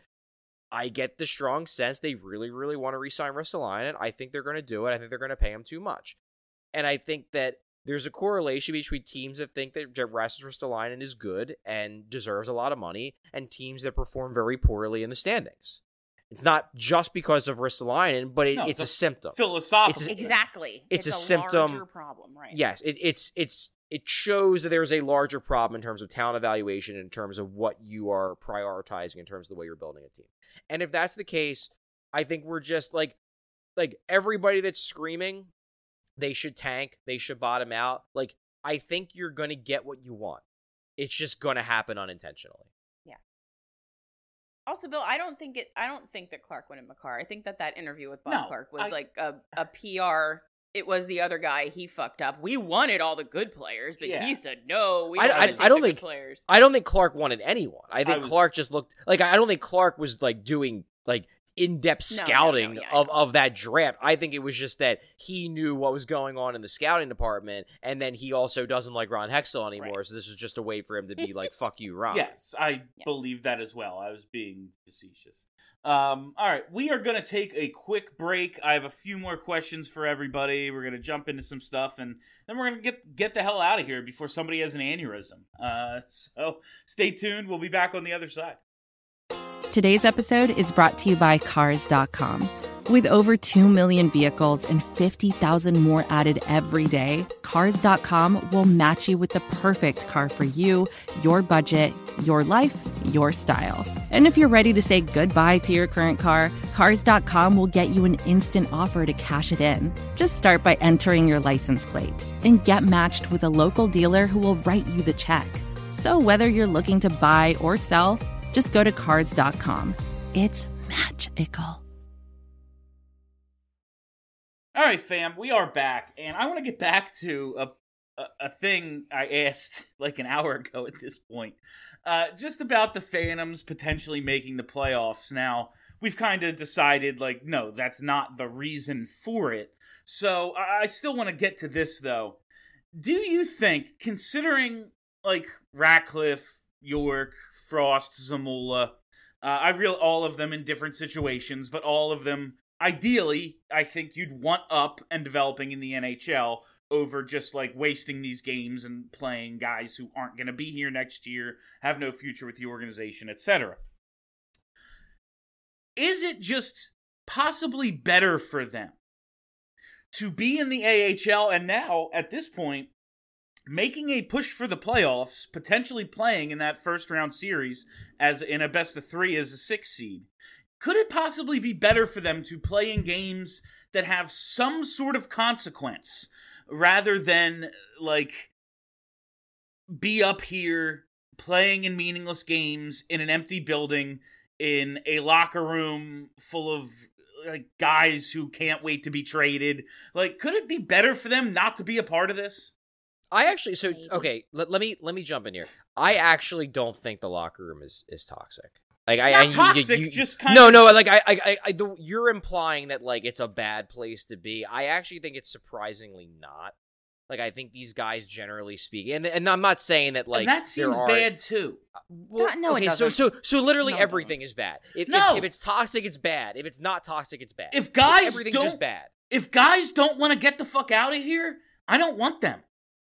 I get the strong sense they really, really want to re-sign Ristolainen. I think they're going to do it. I think they're going to pay him too much. And I think that there's a correlation between teams that think that Rasmus Ristolainen is good and deserves a lot of money and teams that perform very poorly in the standings. It's not just because of Ristolainen, but it, No, it's, it's a, a symptom. Philosophical. It's a- Exactly. It's It's, a a, symptom- larger problem, right? Yes, it, it's it's it shows that there's a larger problem in terms of talent evaluation, in terms of what you are prioritizing, in terms of the way you're building a team. And if that's the case, I think we're just like like everybody that's screaming they should tank, they should bottom out. Like, I think you're going to get what you want. It's just going to happen unintentionally. Yeah. Also, Bill, I don't think it. I don't think that Clark wanted McCarr. I think that that interview with Bob No, Clark was I- like a, a P R. It was the other guy. He fucked up. We wanted all the good players, but Yeah. he said no. We I- don't I- take I don't the think- good players. I don't think Clark wanted anyone. I think I was- Clark just looked like I don't think Clark was like doing like in-depth No, no, no, scouting yeah, of, no. of that draft. I think it was just that he knew what was going on in the scouting department, and then he also doesn't like Ron Hextall anymore, Right. so this was just a way for him to be like, fuck you, Ron. Yes, I Yes. believe that as well. I was being facetious. Um, all right, we are going to take a quick break. I have a few more questions for everybody. We're going to jump into some stuff, and then we're going to get get the hell out of here before somebody has an aneurysm. Uh, so stay tuned. We'll be back on the other side. Today's episode is brought to you by Cars dot com. With over two million vehicles and fifty thousand more added every day, Cars dot com will match you with the perfect car for you, your budget, your life, your style. And if you're ready to say goodbye to your current car, Cars dot com will get you an instant offer to cash it in. Just start by entering your license plate and get matched with a local dealer who will write you the check. So whether you're looking to buy or sell, just go to Cars dot com. It's magical. All right, fam, we are back, and I want to get back to a, a a thing I asked like an hour ago at this point, uh, just about the Phantoms potentially making the playoffs. Now, we've kind of decided, like, no, that's not the reason for it. So I, I still want to get to this, though. Do you think, considering, like, Ratcliffe, York, Frost, Zamula, uh, I real all of them in different situations, but all of them, ideally, I think you'd want up and developing in the N H L over just, like, wasting these games and playing guys who aren't going to be here next year, have no future with the organization, et cetera. Is it just possibly better for them to be in the A H L and now, at this point, making a push for the playoffs, potentially playing in that first round series as in a best of three as a six seed? Could it possibly be better for them to play in games that have some sort of consequence rather than, like, be up here playing in meaningless games in an empty building in a locker room full of, like, guys who can't wait to be traded? Like, could it be better for them not to be a part of this? I actually, so, okay, let, let me let me jump in here. I actually don't think the locker room is, is toxic. Like, I, Not I, toxic, you, you, just kind no, of... no, like, I, I, I, I the, you're implying that, like, it's a bad place to be. I actually think it's surprisingly not. Like, I think these guys, generally speaking, and and I'm not saying that, like, and that seems there are, bad, too. Well, no, okay, it so, doesn't. so, so literally No, everything is bad. If, No. if, if it's toxic, it's bad. If it's not toxic, it's bad. If guys Everything's don't, just bad. If guys don't want to get the fuck out of here, I don't want them.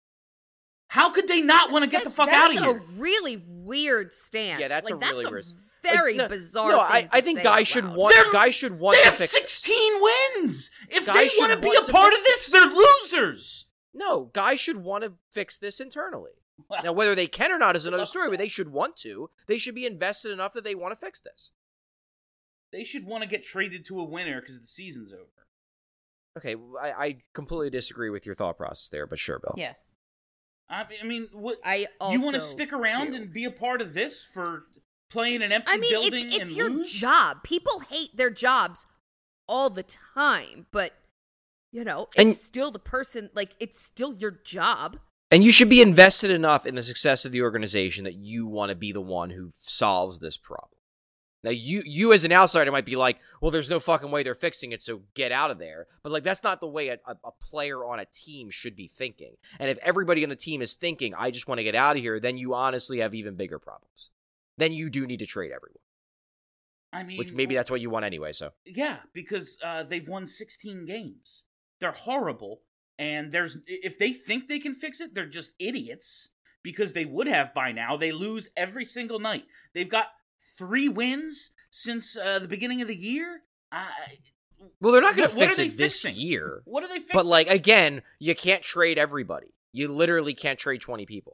How could they not want to get the That's- fuck out of here? That's a really weird stance. Yeah, that's like, a that's really a weird- very Like, no, bizarre No, thing I, to I think say guys out should loud. want. They're- guys should want They to have fix. sixteen wins. If Guys they should want to be want a to part fix of this, they're losers. No, guys should want to fix this internally. Now, whether they can or not is another story, but they should want to. They should be invested enough that they want to fix this. They should want to get traded to a winner because the season's over. Okay, I, I completely disagree with your thought process there, but sure, Bill. Yes. I mean, I mean what, I also you want to stick around do. and be a part of this for playing an empty I mean, building it's it's and your lose? job. People hate their jobs all the time, but you know, it's And- still the person. Like, it's still your job. And you should be invested enough in the success of the organization that you want to be the one who solves this problem. Now, you you as an outsider might be like, well, there's no fucking way they're fixing it, so get out of there. But, like, that's not the way a, a, a player on a team should be thinking. And if everybody on the team is thinking, I just want to get out of here, then you honestly have even bigger problems. Then you do need to trade everyone. I mean, Which maybe that's what you want anyway, so. Yeah, because uh, they've won sixteen games. They're horrible, and there's if they think they can fix it, they're just idiots because they would have by now. They lose every single night. They've got three wins since uh, the beginning of the year. Uh, Well, they're not going what- to what fix are it they this fixing? year. What are they fixing? But, like, again, you can't trade everybody. You literally can't trade twenty people.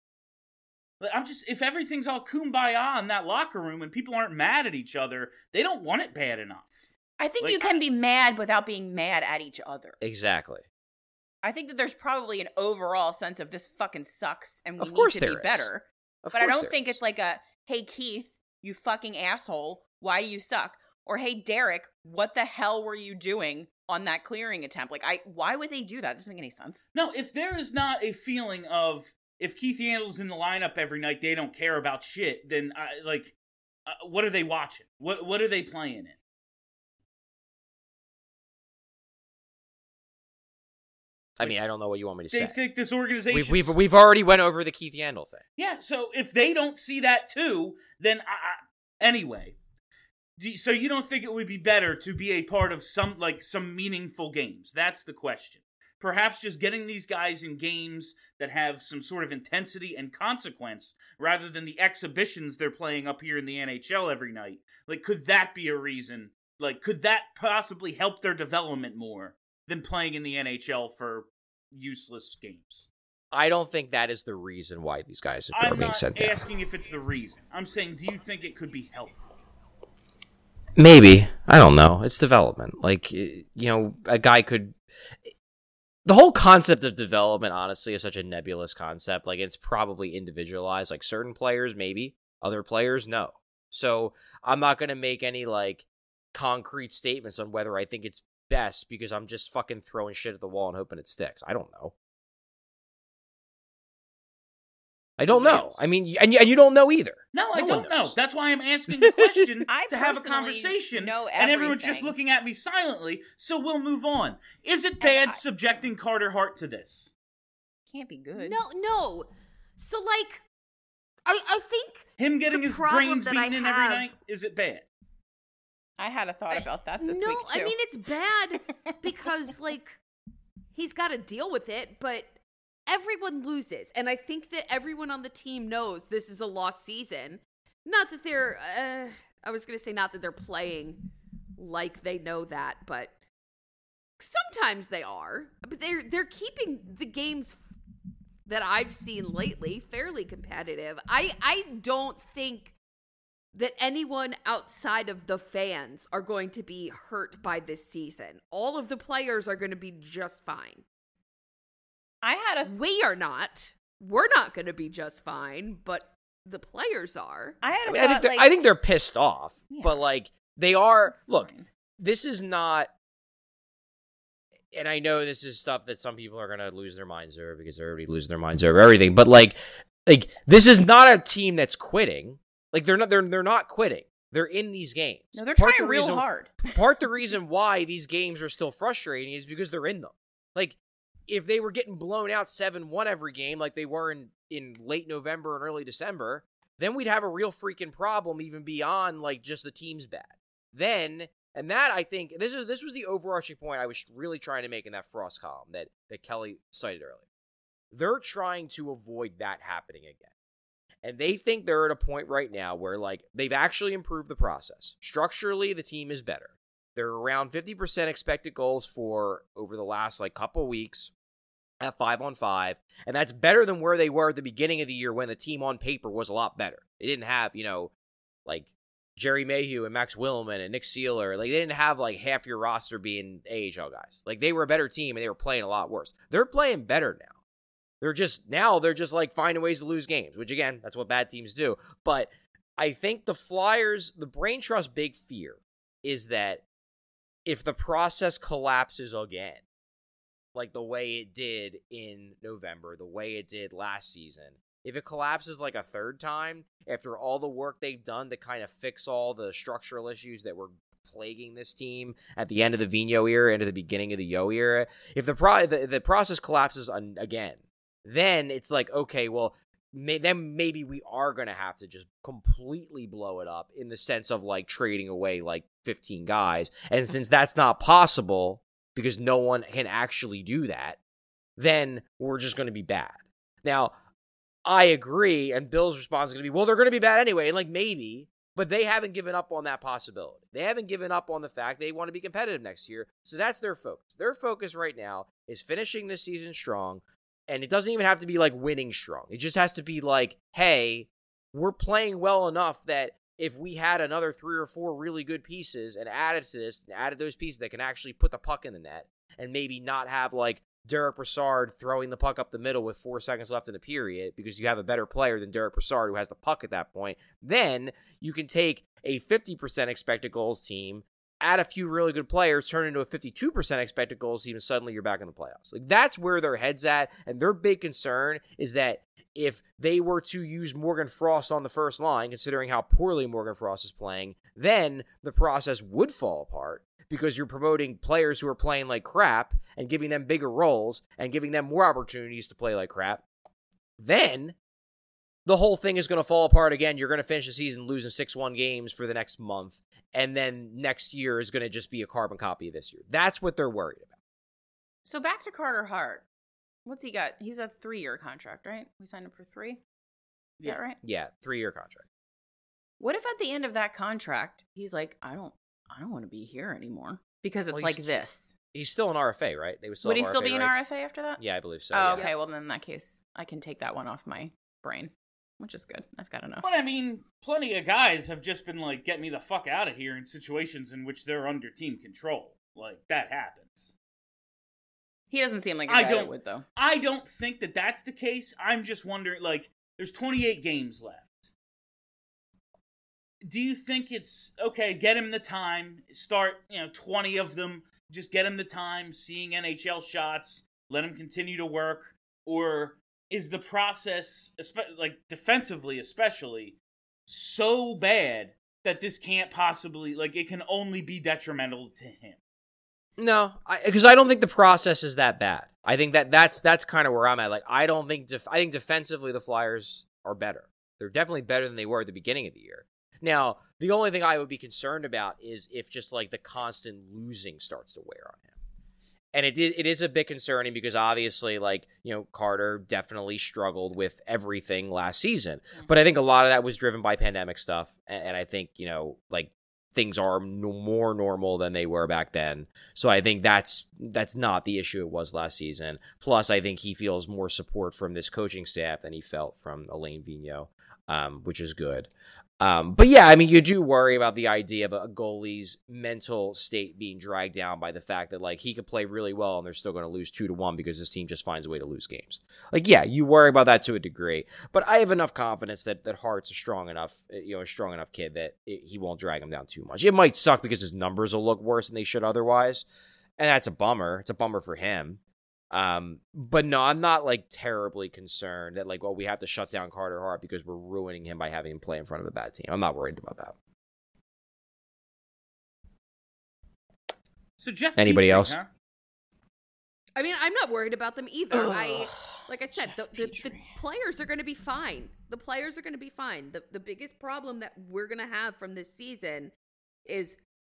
I'm just if everything's all kumbaya in that locker room and people aren't mad at each other, they don't want it bad enough. I think Like, you can be mad without being mad at each other. Exactly. I think that there's probably an overall sense of this fucking sucks and we Of course need to there be is. better. Of But I course don't there think is. it's like a, hey, Keith, you fucking asshole, why do you suck? Or, hey, Derek, what the hell were you doing on that clearing attempt? Like, I, why would they do that? It doesn't make any sense. No, if there is not a feeling of if Keith Yandle's in the lineup every night, they don't care about shit. Then, I, like, uh, what are they watching? What What are they playing in? I mean, I don't know what you want me to They say. think this organization. We've, we've we've already went over the Keith Yandle thing. Yeah, so if they don't see that too, then I, I, anyway. Do you- So you don't think it would be better to be a part of some like some meaningful games? That's the question. Perhaps just getting these guys in games that have some sort of intensity and consequence rather than the exhibitions they're playing up here in the N H L every night. Like, could that be a reason Like, could that possibly help their development more than playing in the N H L for useless games? I don't think that is the reason why these guys are I'm being not sent down. asking if it's the reason. I'm saying, do you think it could be helpful? Maybe. I don't know. It's development. Like, you know, a guy could... The whole concept of development, honestly, is such a nebulous concept. Like, it's probably individualized. Like, certain players, maybe. Other players, no. So, I'm not going to make any, like, concrete statements on whether I think it's best because I'm just fucking throwing shit at the wall and hoping it sticks. I don't know. I don't know. I mean, and you, and you don't know either. No, I No don't one know. knows. That's why I'm asking the question I to have a personally conversation. know And everyone's just everything. looking at me silently, so we'll move on. Is it bad I- subjecting Carter Hart to this? Can't be good. No, no. So like, I I think Him getting The his problem brains that I beaten in every have- night? Is it bad? I had a thought about that this no, week too. I mean it's bad because like he's got to deal with it, but everyone loses, and I think that everyone on the team knows this is a lost season. Not that they're, uh, I was gonna say not that they're playing like they know that, but sometimes they are. But they're they're keeping the games that I've seen lately fairly competitive. I I don't think that anyone outside of the fans are going to be hurt by this season. All of the players are going to be just fine. I had a th- We are not. We're not going to be just fine, but the players are. I had a I, mean, I think thought they're, like I think they're pissed off, Yeah. but like they are. It's Look, fine. this is not, and I know this is stuff that some people are gonna lose their minds over because they're already losing their minds over everything. But like, like this is not a team that's quitting. Like they're not. They're they're not quitting. They're in these games. No, they're Part trying the real reason- hard. Part the reason why these games are still frustrating is because they're in them. Like, if they were getting blown out seven one every game like they were in, in late November and early December, then we'd have a real freaking problem even beyond, like, just the team's bad. Then, and that, I think, this is this was the overarching point I was really trying to make in that Frost column that, that Kelly cited earlier. They're trying to avoid that happening again. And they think they're at a point right now where, like, they've actually improved the process. Structurally, the team is better. They're around fifty percent expected goals for over the last, like, couple weeks at five on five. And that's better than where they were at the beginning of the year when the team on paper was a lot better. They didn't have, you know, like, Jerry Mayhew and Max Willman and Nick Seeler. Like, they didn't have, like, half your roster being A H L guys. Like, they were a better team and they were playing a lot worse. They're playing better now. They're just, now they're just like finding ways to lose games, which again, that's what bad teams do. But I think the Flyers, the Brain Trust's big fear is that if the process collapses again, like the way it did in November, the way it did last season, if it collapses like a third time, after all the work they've done to kind of fix all the structural issues that were plaguing this team at the end of the Vigneault era and at the beginning of the Yo era, if the, pro- the, the process collapses on, again, then it's like, okay, well, may, then maybe we are going to have to just completely blow it up in the sense of, like, trading away, like, fifteen guys. And since that's not possible, because no one can actually do that, then we're just going to be bad. Now, I agree, and Bill's response is going to be, well, they're going to be bad anyway, and, like, maybe, but they haven't given up on that possibility. They haven't given up on the fact they want to be competitive next year, so that's their focus. Their focus right now is finishing this season strong. And it doesn't even have to be, like, winning strong. It just has to be like, hey, we're playing well enough that if we had another three or four really good pieces and added to this, and added those pieces that can actually put the puck in the net and maybe not have, like, Derek Brassard throwing the puck up the middle with four seconds left in the period because you have a better player than Derek Brassard who has the puck at that point, then you can take a fifty percent expected goals team, add a few really good players, turn into a fifty-two percent expected goals team, and suddenly you're back in the playoffs. Like, that's where their head's at, and their big concern is that if they were to use Morgan Frost on the first line, considering how poorly Morgan Frost is playing, then the process would fall apart because you're promoting players who are playing like crap and giving them bigger roles and giving them more opportunities to play like crap. Then the whole thing is going to fall apart again. You're going to finish the season losing six one games for the next month. And then next year is going to just be a carbon copy of this year. That's what they're worried about. So back to Carter Hart. What's he got? He's a three-year contract, right? We signed him for three? Is Yeah. that right? Yeah, three-year contract. What if at the end of that contract, he's like, I don't I don't want to be here anymore because it's Well, like he's- this. He's still an R F A, right? They would still Would have he still R F A be an rights. R F A after that? Yeah, I believe so. Oh, yeah. okay. Well, then in that case, I can take that one off my brain, which is good. I've got enough. But I mean, plenty of guys have just been like, get me the fuck out of here in situations in which they're under team control. Like, that happens. He doesn't seem like a I guy don't, that would, though. I don't think that that's the case. I'm just wondering, like, there's twenty-eight games left. Do you think it's, okay, get him the time, start, you know, twenty of them, just get him the time, seeing N H L shots, let him continue to work, or is the process, like, defensively especially, so bad that this can't possibly, like, it can only be detrimental to him? No, because I, I don't think the process is that bad. I think that that's that's kind of where I'm at. Like, I don't think def- I think defensively the Flyers are better. They're definitely better than they were at the beginning of the year. Now, the only thing I would be concerned about is if just like the constant losing starts to wear on him. And it is, it is a bit concerning because obviously, like, you know, Carter definitely struggled with everything last season. Mm-hmm. But I think a lot of that was driven by pandemic stuff. And, and I think, you know, like, things are no more normal than they were back then. So I think that's that's not the issue it was last season. Plus, I think he feels more support from this coaching staff than he felt from Alain Vigneault, um, which is good. Um, but yeah, I mean, you do worry about the idea of a goalie's mental state being dragged down by the fact that, like, he could play really well and they're still going to lose two to one because this team just finds a way to lose games. Like, yeah, you worry about that to a degree, but I have enough confidence that, that Hart's a strong enough, you know, a strong enough kid that it, he won't drag him down too much. It might suck because his numbers will look worse than they should otherwise, and that's a bummer. It's a bummer for him. Um, but no, I'm not like terribly concerned that like, well, we have to shut down Carter Hart because we're ruining him by having him play in front of a bad team. I'm not worried about that. So Jeff, anybody Petrie, else? Huh? I mean, I'm not worried about them either. Ugh, I, like I said, the, the, the Petrie. players are going to be fine. The players are going to be fine. The the biggest problem that we're going to have from this season is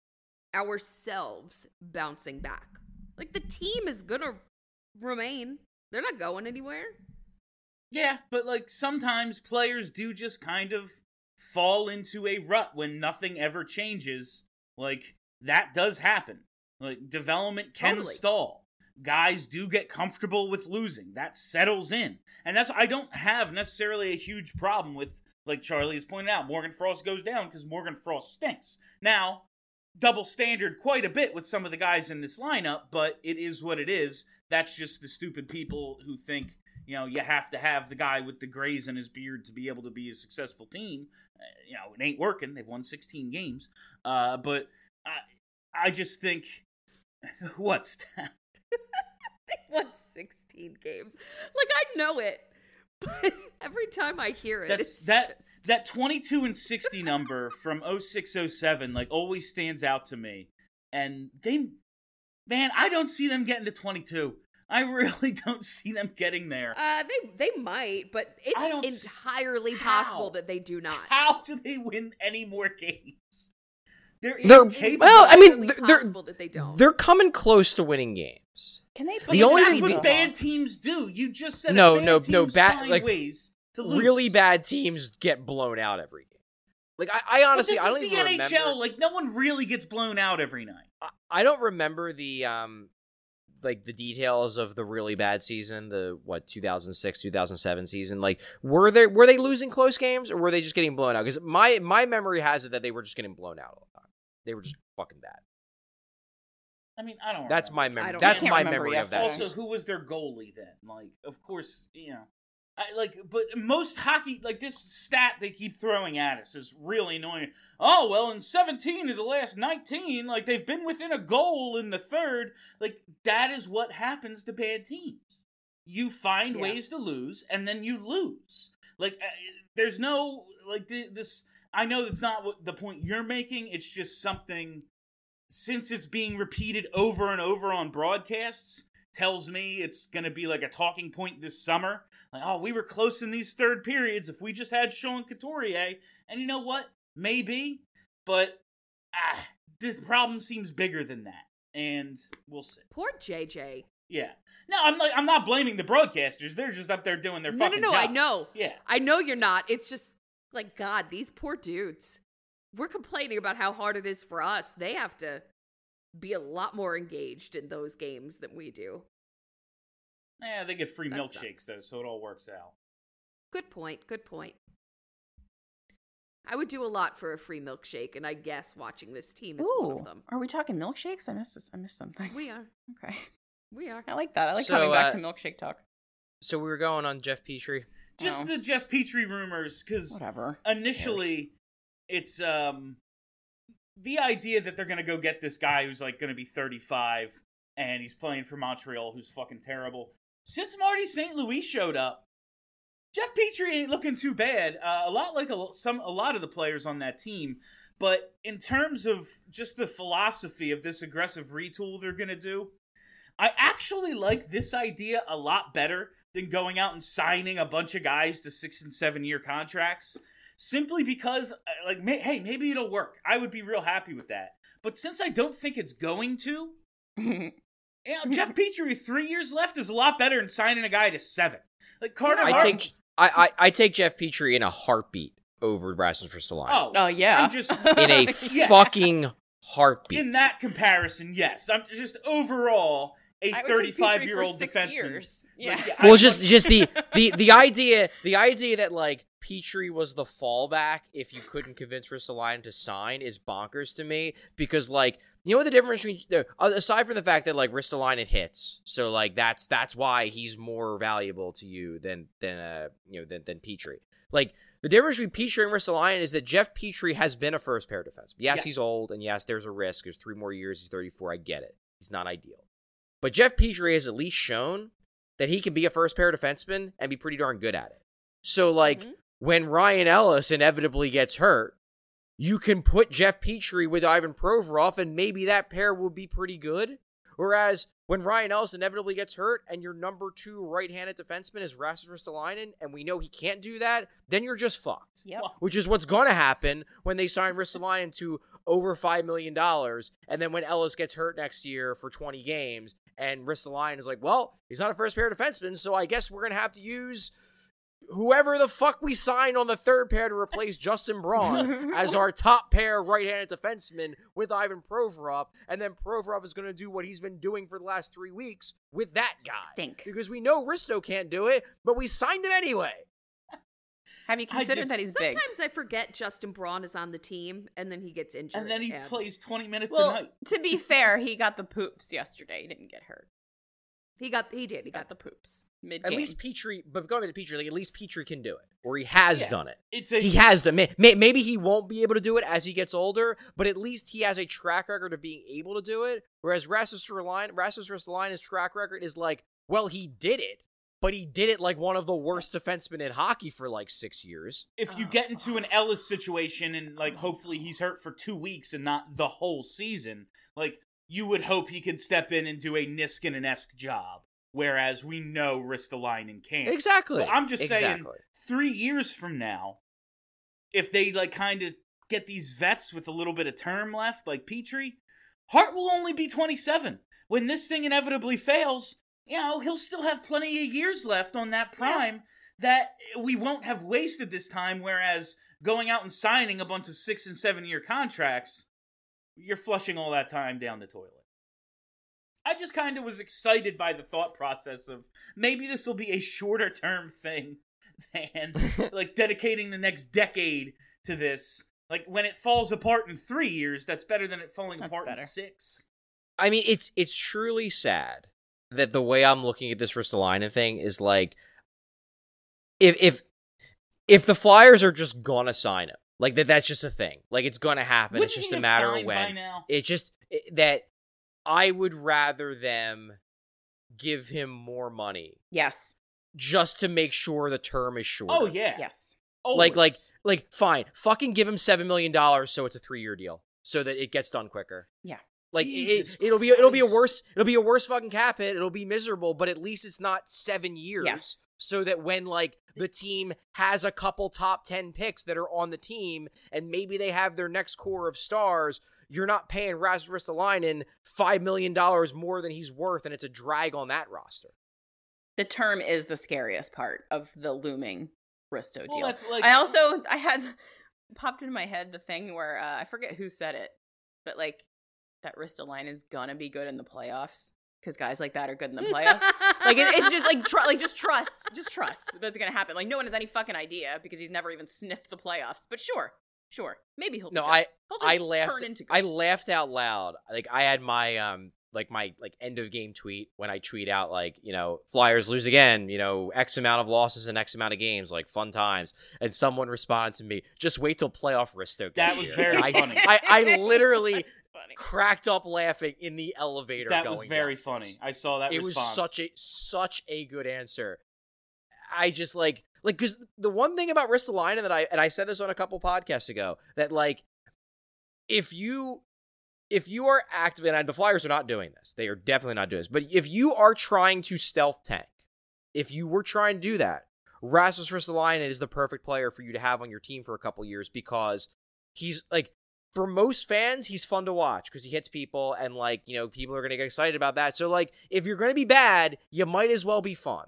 ourselves bouncing back. Like, the team is going to remain. They're not going anywhere. Yeah, but like sometimes players do just kind of fall into a rut when nothing ever changes. Like, that does happen. Like, development can Totally. stall. Guys do get comfortable with losing. That settles in. And that's, I don't have necessarily a huge problem with, like Charlie has pointed out, Morgan Frost goes down because Morgan Frost stinks. Now, double standard quite a bit with some of the guys in this lineup, but it is what it is. That's just the stupid people who think, you know, you have to have the guy with the grays in his beard to be able to be a successful team. Uh, you know, it ain't working. They've won sixteen games. Uh, but I, I just think, what's that? They won sixteen games. Like, I know it, but every time I hear it, That's it's that just... that twenty-two and sixty number from oh six oh seven like always stands out to me. And they, man, I don't see them getting to twenty-two. I really don't see them getting there. Uh, they they might, but I don't it's s- entirely How? possible that they do not. How do they win any more games? They're, They're- incapable. well, I mean, Entirely they're- they're- possible that they don't. They're coming close to winning games. Can they But play the only that's thing- what bad teams do. You just said No, bad no, teams no, bad- find like, ways to lose. Really bad teams get blown out every game. Like, I, I honestly, but I this don't is even the N H L. remember. Like, no one really gets blown out every night. I, I don't remember the um, like the details of the really bad season, the what two thousand six, two thousand seven season. Like, were they were they losing close games or were they just getting blown out? Because my my memory has it that they were just getting blown out all the time. They were just fucking bad. I mean, I don't. That's my remember. memory. don't That's know. I my can't remember memory of that. yesterday. Also, who was their goalie then? Like, of course, you know, I like, but most hockey, like this stat they keep throwing at us is really annoying. Oh well, in seventeen of the last nineteen, like they've been within a goal in the third. Like, that is what happens to bad teams. You find Yeah. ways to lose, and then you lose. Like, uh, there's no like the, this. I know that's not what the point you're making. It's just something. Since it's being repeated over and over on broadcasts, tells me it's going to be like a talking point this summer. Like, oh, we were close in these third periods if we just had Sean Couturier. And you know what? Maybe. But ah, this problem seems bigger than that. And we'll see. Poor J J. Yeah. No, I'm like I'm not blaming the broadcasters. They're just up there doing their No, no, fucking no. job. I know. Yeah. I know you're not. It's just like, God, these poor dudes. we're complaining about how hard it is for us. They have to be a lot more engaged in those games than we do. Yeah, they get free That milkshakes, though, so it all works out. Good point. Good point. I would do a lot for a free milkshake, and I guess watching this team is one of them. Are we talking milkshakes? I missed this. I missed something. We are. Okay. We are. I like that. I like So, coming back uh, to milkshake talk. So we were going on Jeff Petrie. Just Oh. the Jeff Petrie rumors, because Whatever. initially it's um the idea that they're gonna go get this guy who's like gonna be thirty-five and he's playing for Montreal, who's fucking terrible. Since Marty Saint Louis showed up, Jeff Petrie ain't looking too bad. Uh, a lot like a, some a lot of the players on that team. But in terms of just the philosophy of this aggressive retool they're gonna do, I actually like this idea a lot better than going out and signing a bunch of guys to six and seven year contracts. Simply because, like, may, hey, maybe it'll work. I would be real happy with that. But since I don't think it's going to, you know, Jeff Petrie, three years left is a lot better than signing a guy to seven. Like Carter I Hart. take I, I I take Jeff Petrie in a heartbeat over Rasmus Ristolainen. Oh, Oh, yeah. I'm just in a Yes. fucking heartbeat. in that comparison. Yes, I'm just overall a I would take thirty-five Petrie year for old six defenseman. years. Like, Yeah. I well, just want- just the, the the idea the idea that like Petrie was the fallback if you couldn't convince Ristolainen to sign is bonkers to me, because like, you know what the difference between, aside from the fact that like Ristolainen hits, so like that's that's why he's more valuable to you than than uh you know than than Petrie. Like the difference between Petrie and Ristolainen is that Jeff Petrie has been a first pair defenseman. Yes, Yeah. he's old, and yes, there's a risk. There's three more years. He's thirty-four. I get it. He's not ideal. But Jeff Petrie has at least shown that he can be a first pair defenseman and be pretty darn good at it. So, like, Mhm. when Ryan Ellis inevitably gets hurt, you can put Jeff Petrie with Ivan Provorov, and maybe that pair will be pretty good. Whereas when Ryan Ellis inevitably gets hurt and your number two right-handed defenseman is Rasmus Ristolainen, and we know he can't do that, then you're just fucked. Yep. Which is what's going to happen when they sign Ristolainen to over five million dollars, and then when Ellis gets hurt next year for twenty games, and Ristolainen is like, well, he's not a first-pair defenseman, so I guess we're going to have to use whoever the fuck we signed on the third pair to replace Justin Braun as our top pair right-handed defenseman with Ivan Provorov, and then Provorov is going to do what he's been doing for the last three weeks with that guy. Stink. Because we know Risto can't do it, but we signed him anyway. Have you I considered just- that he's big? Sometimes I forget Justin Braun is on the team, and then he gets injured. and then he plays twenty minutes Well, a night. to be fair, he got the poops yesterday. He didn't get hurt. He got. He did. He He got got the poops mid At least Petrie, but going to Petrie, like at least Petrie can do it, or he has Yeah. done it. It's a He has done. May, may, maybe he won't be able to do it as he gets older, but at least he has a track record of being able to do it. Whereas Rasmus Ristolainen, Rasmus Ristolainen's track record is like, well, he did it, but he did it like one of the worst defensemen in hockey for like six years. if you get into an Ellis situation and like hopefully he's hurt for two weeks and not the whole season, like you would hope he could step in and do a Niskanen-esque job. Whereas we know Ristolainen can't. Exactly. But I'm just saying, Exactly. three years from now, if they like kind of get these vets with a little bit of term left, like Petrie, Hart will only be twenty-seven. When this thing inevitably fails, you know, he'll still have plenty of years left on that prime that we won't have wasted this time, whereas going out and signing a bunch of six and seven year contracts, you're flushing all that time down the toilet. I just kind of was excited by the thought process of maybe this will be a shorter term thing than like dedicating the next decade to this. Like when it falls apart in three years, that's better than it falling That's apart better. in six. I mean, it's it's truly sad that the way I'm looking at this Ristolainen thing is like, if if if the Flyers are just gonna sign him, like that, that's just a thing. Like it's gonna happen. Wouldn't it's just he a have matter of signed by when. now? It just it, that I would rather them give him more money Yes. just to make sure the term is shorter. Oh yeah, Yes. Like, like, Always. like, fine. Fucking give him seven million dollars so it's a three-year deal, so that it gets done quicker. Yeah. Like Jesus it, it'll be, it'll be a Christ. worse, it'll be a worse fucking cap hit. It'll be miserable, but at least it's not seven years. Yes. So that when like the team has a couple top ten picks that are on the team, and maybe they have their next core of stars, you're not paying Rasmus Ristolainen five million dollars more than he's worth, and it's a drag on that roster. The term is the scariest part of the looming Risto Well, deal. that's like- I also I had popped into my head the thing where uh, I forget who said it, but like that Ristolainen is gonna be good in the playoffs because guys like that are good in the playoffs. Like it, it's just like tr- like just trust, just trust that's gonna happen. Like no one has any fucking idea because he's never even sniffed the playoffs. But sure, sure, maybe he'll. No, be good. I He'll just I laughed. Turn into good. I laughed out loud. Like I had my um like my like end of game tweet when I tweet out like, you know, Flyers lose again, you know, X amount of losses and X amount of games, like fun times. And someone responded to me, just wait till playoff Risto. That was here. very I, funny. I, I literally cracked up laughing in the elevator. That going was very downstairs. funny. I saw that It response. was such a such a good answer. I just like like because the one thing about Ristolainen that I and I said this on a couple podcasts ago that like if you if you are active and the Flyers are not doing this, they are definitely not doing this. But if you are trying to stealth tank, if you were trying to do that, Rasmus Ristolainen is the perfect player for you to have on your team for a couple years because he's like. For most fans, he's fun to watch because he hits people and, like, you know, people are going to get excited about that. So, like, if you're going to be bad, you might as well be fun.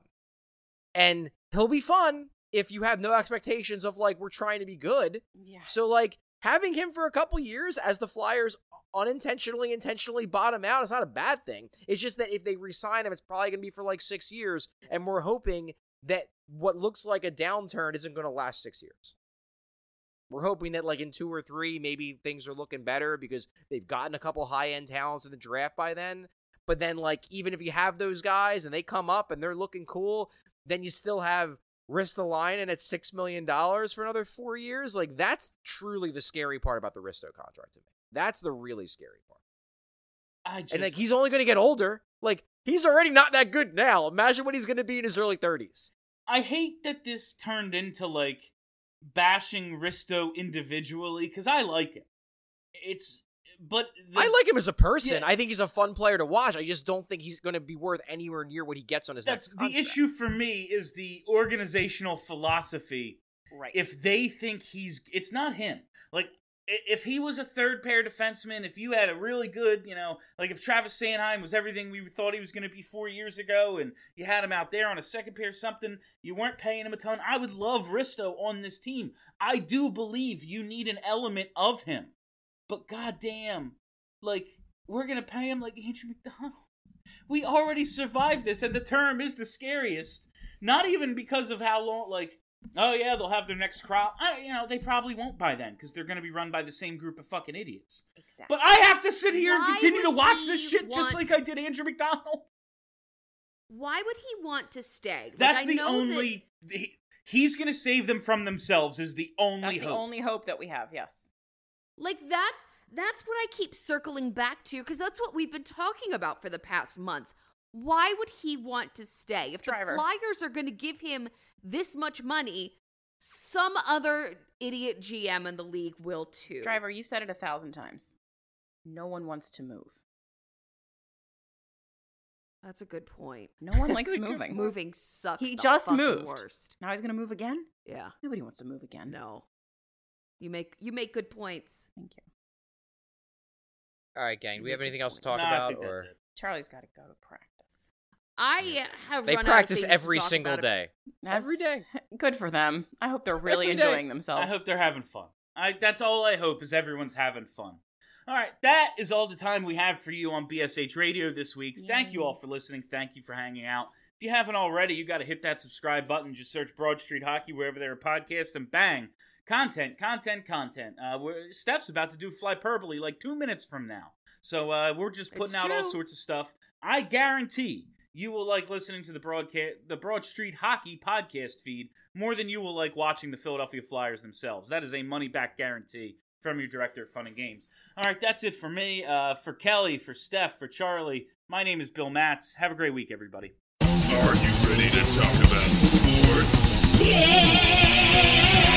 And he'll be fun if you have no expectations of, like, we're trying to be good. Yeah. So, like, having him for a couple years as the Flyers unintentionally, intentionally bottom out is not a bad thing. It's just that if they re-sign him, it's probably going to be for, like, six years. And we're hoping that what looks like a downturn isn't going to last six years. We're hoping that, like, in two or three, maybe things are looking better because they've gotten a couple high-end talents in the draft by then. But then, like, even if you have those guys and they come up and they're looking cool, then you still have Ristolainen at six million dollars for another four years. Like, that's truly the scary part about the Risto contract to me. That's the really scary part. I just... And, like, he's only going to get older. Like, he's already not that good now. Imagine what he's going to be in his early thirties. I hate that this turned into, like, bashing Risto individually, because I like him. It's, but... The, I like him as a person. Yeah. I think he's a fun player to watch. I just don't think he's going to be worth anywhere near what he gets on his That's next the contract. issue for me is the organizational philosophy. Right. If they think he's... It's not him. Like, if he was a third pair defenseman, if you had a really good, you know, like if Travis Sanheim was everything we thought he was going to be four years ago and you had him out there on a second pair something, you weren't paying him a ton, I would love Risto on this team. I do believe you need an element of him. But goddamn, like, we're going to pay him like Andrew McDonald. We already survived this, and the term is the scariest. Not even because of how long, like, oh yeah, they'll have their next crop. I, you know, they probably won't by then because they're going to be run by the same group of fucking idiots. Exactly. But I have to sit here Why and continue to would watch he this shit just want- like I did Andrew McDonald. Why would he want to stay? Like, That's I the know only. He, he's going to save them from themselves. Is the only That's the hope. only hope that we have. Yes. That, like that's that's what I keep circling back to because that's what we've been talking about for the past month. Why would he want to stay? If Driver. the Flyers are going to give him this much money, some other idiot G M in the league will too. Driver, you said it a thousand times. No one wants to move. That's a good point. No one likes moving. Moving sucks. He the just fucking moved. Worst. Now he's going to move again? Yeah. Nobody wants to move again. No. You make you make good points. Thank you. All right, gang. Do we have anything else to talk Nah, I about? think that's Or it. Charlie's got to go to practice. I have they run practice out of things every to talk single about. day. Every Every day. Good for them. I hope they're really Every day. enjoying themselves. I hope they're having fun. I, that's all I hope is everyone's having fun. All right, that is all the time we have for you on B S H Radio this week. Thank you all for listening. Thank you for hanging out. If you haven't already, you got to hit that subscribe button. Just search Broad Street Hockey wherever there are podcasts, and bang, content, content, content. Uh, we're, Steph's about to do Flyperbole like two minutes from now. So uh, we're just putting It's out all true. sorts of stuff. I guarantee you will like listening to the broadcast, the Broad Street Hockey podcast feed more than you will like watching the Philadelphia Flyers themselves. That is a money-back guarantee from your director of Fun and Games. All right, that's it for me. Uh, for Kelly, for Steph, for Charlie, my name is Bill Matz. Have a great week, everybody. Are you ready to talk about sports? Yeah!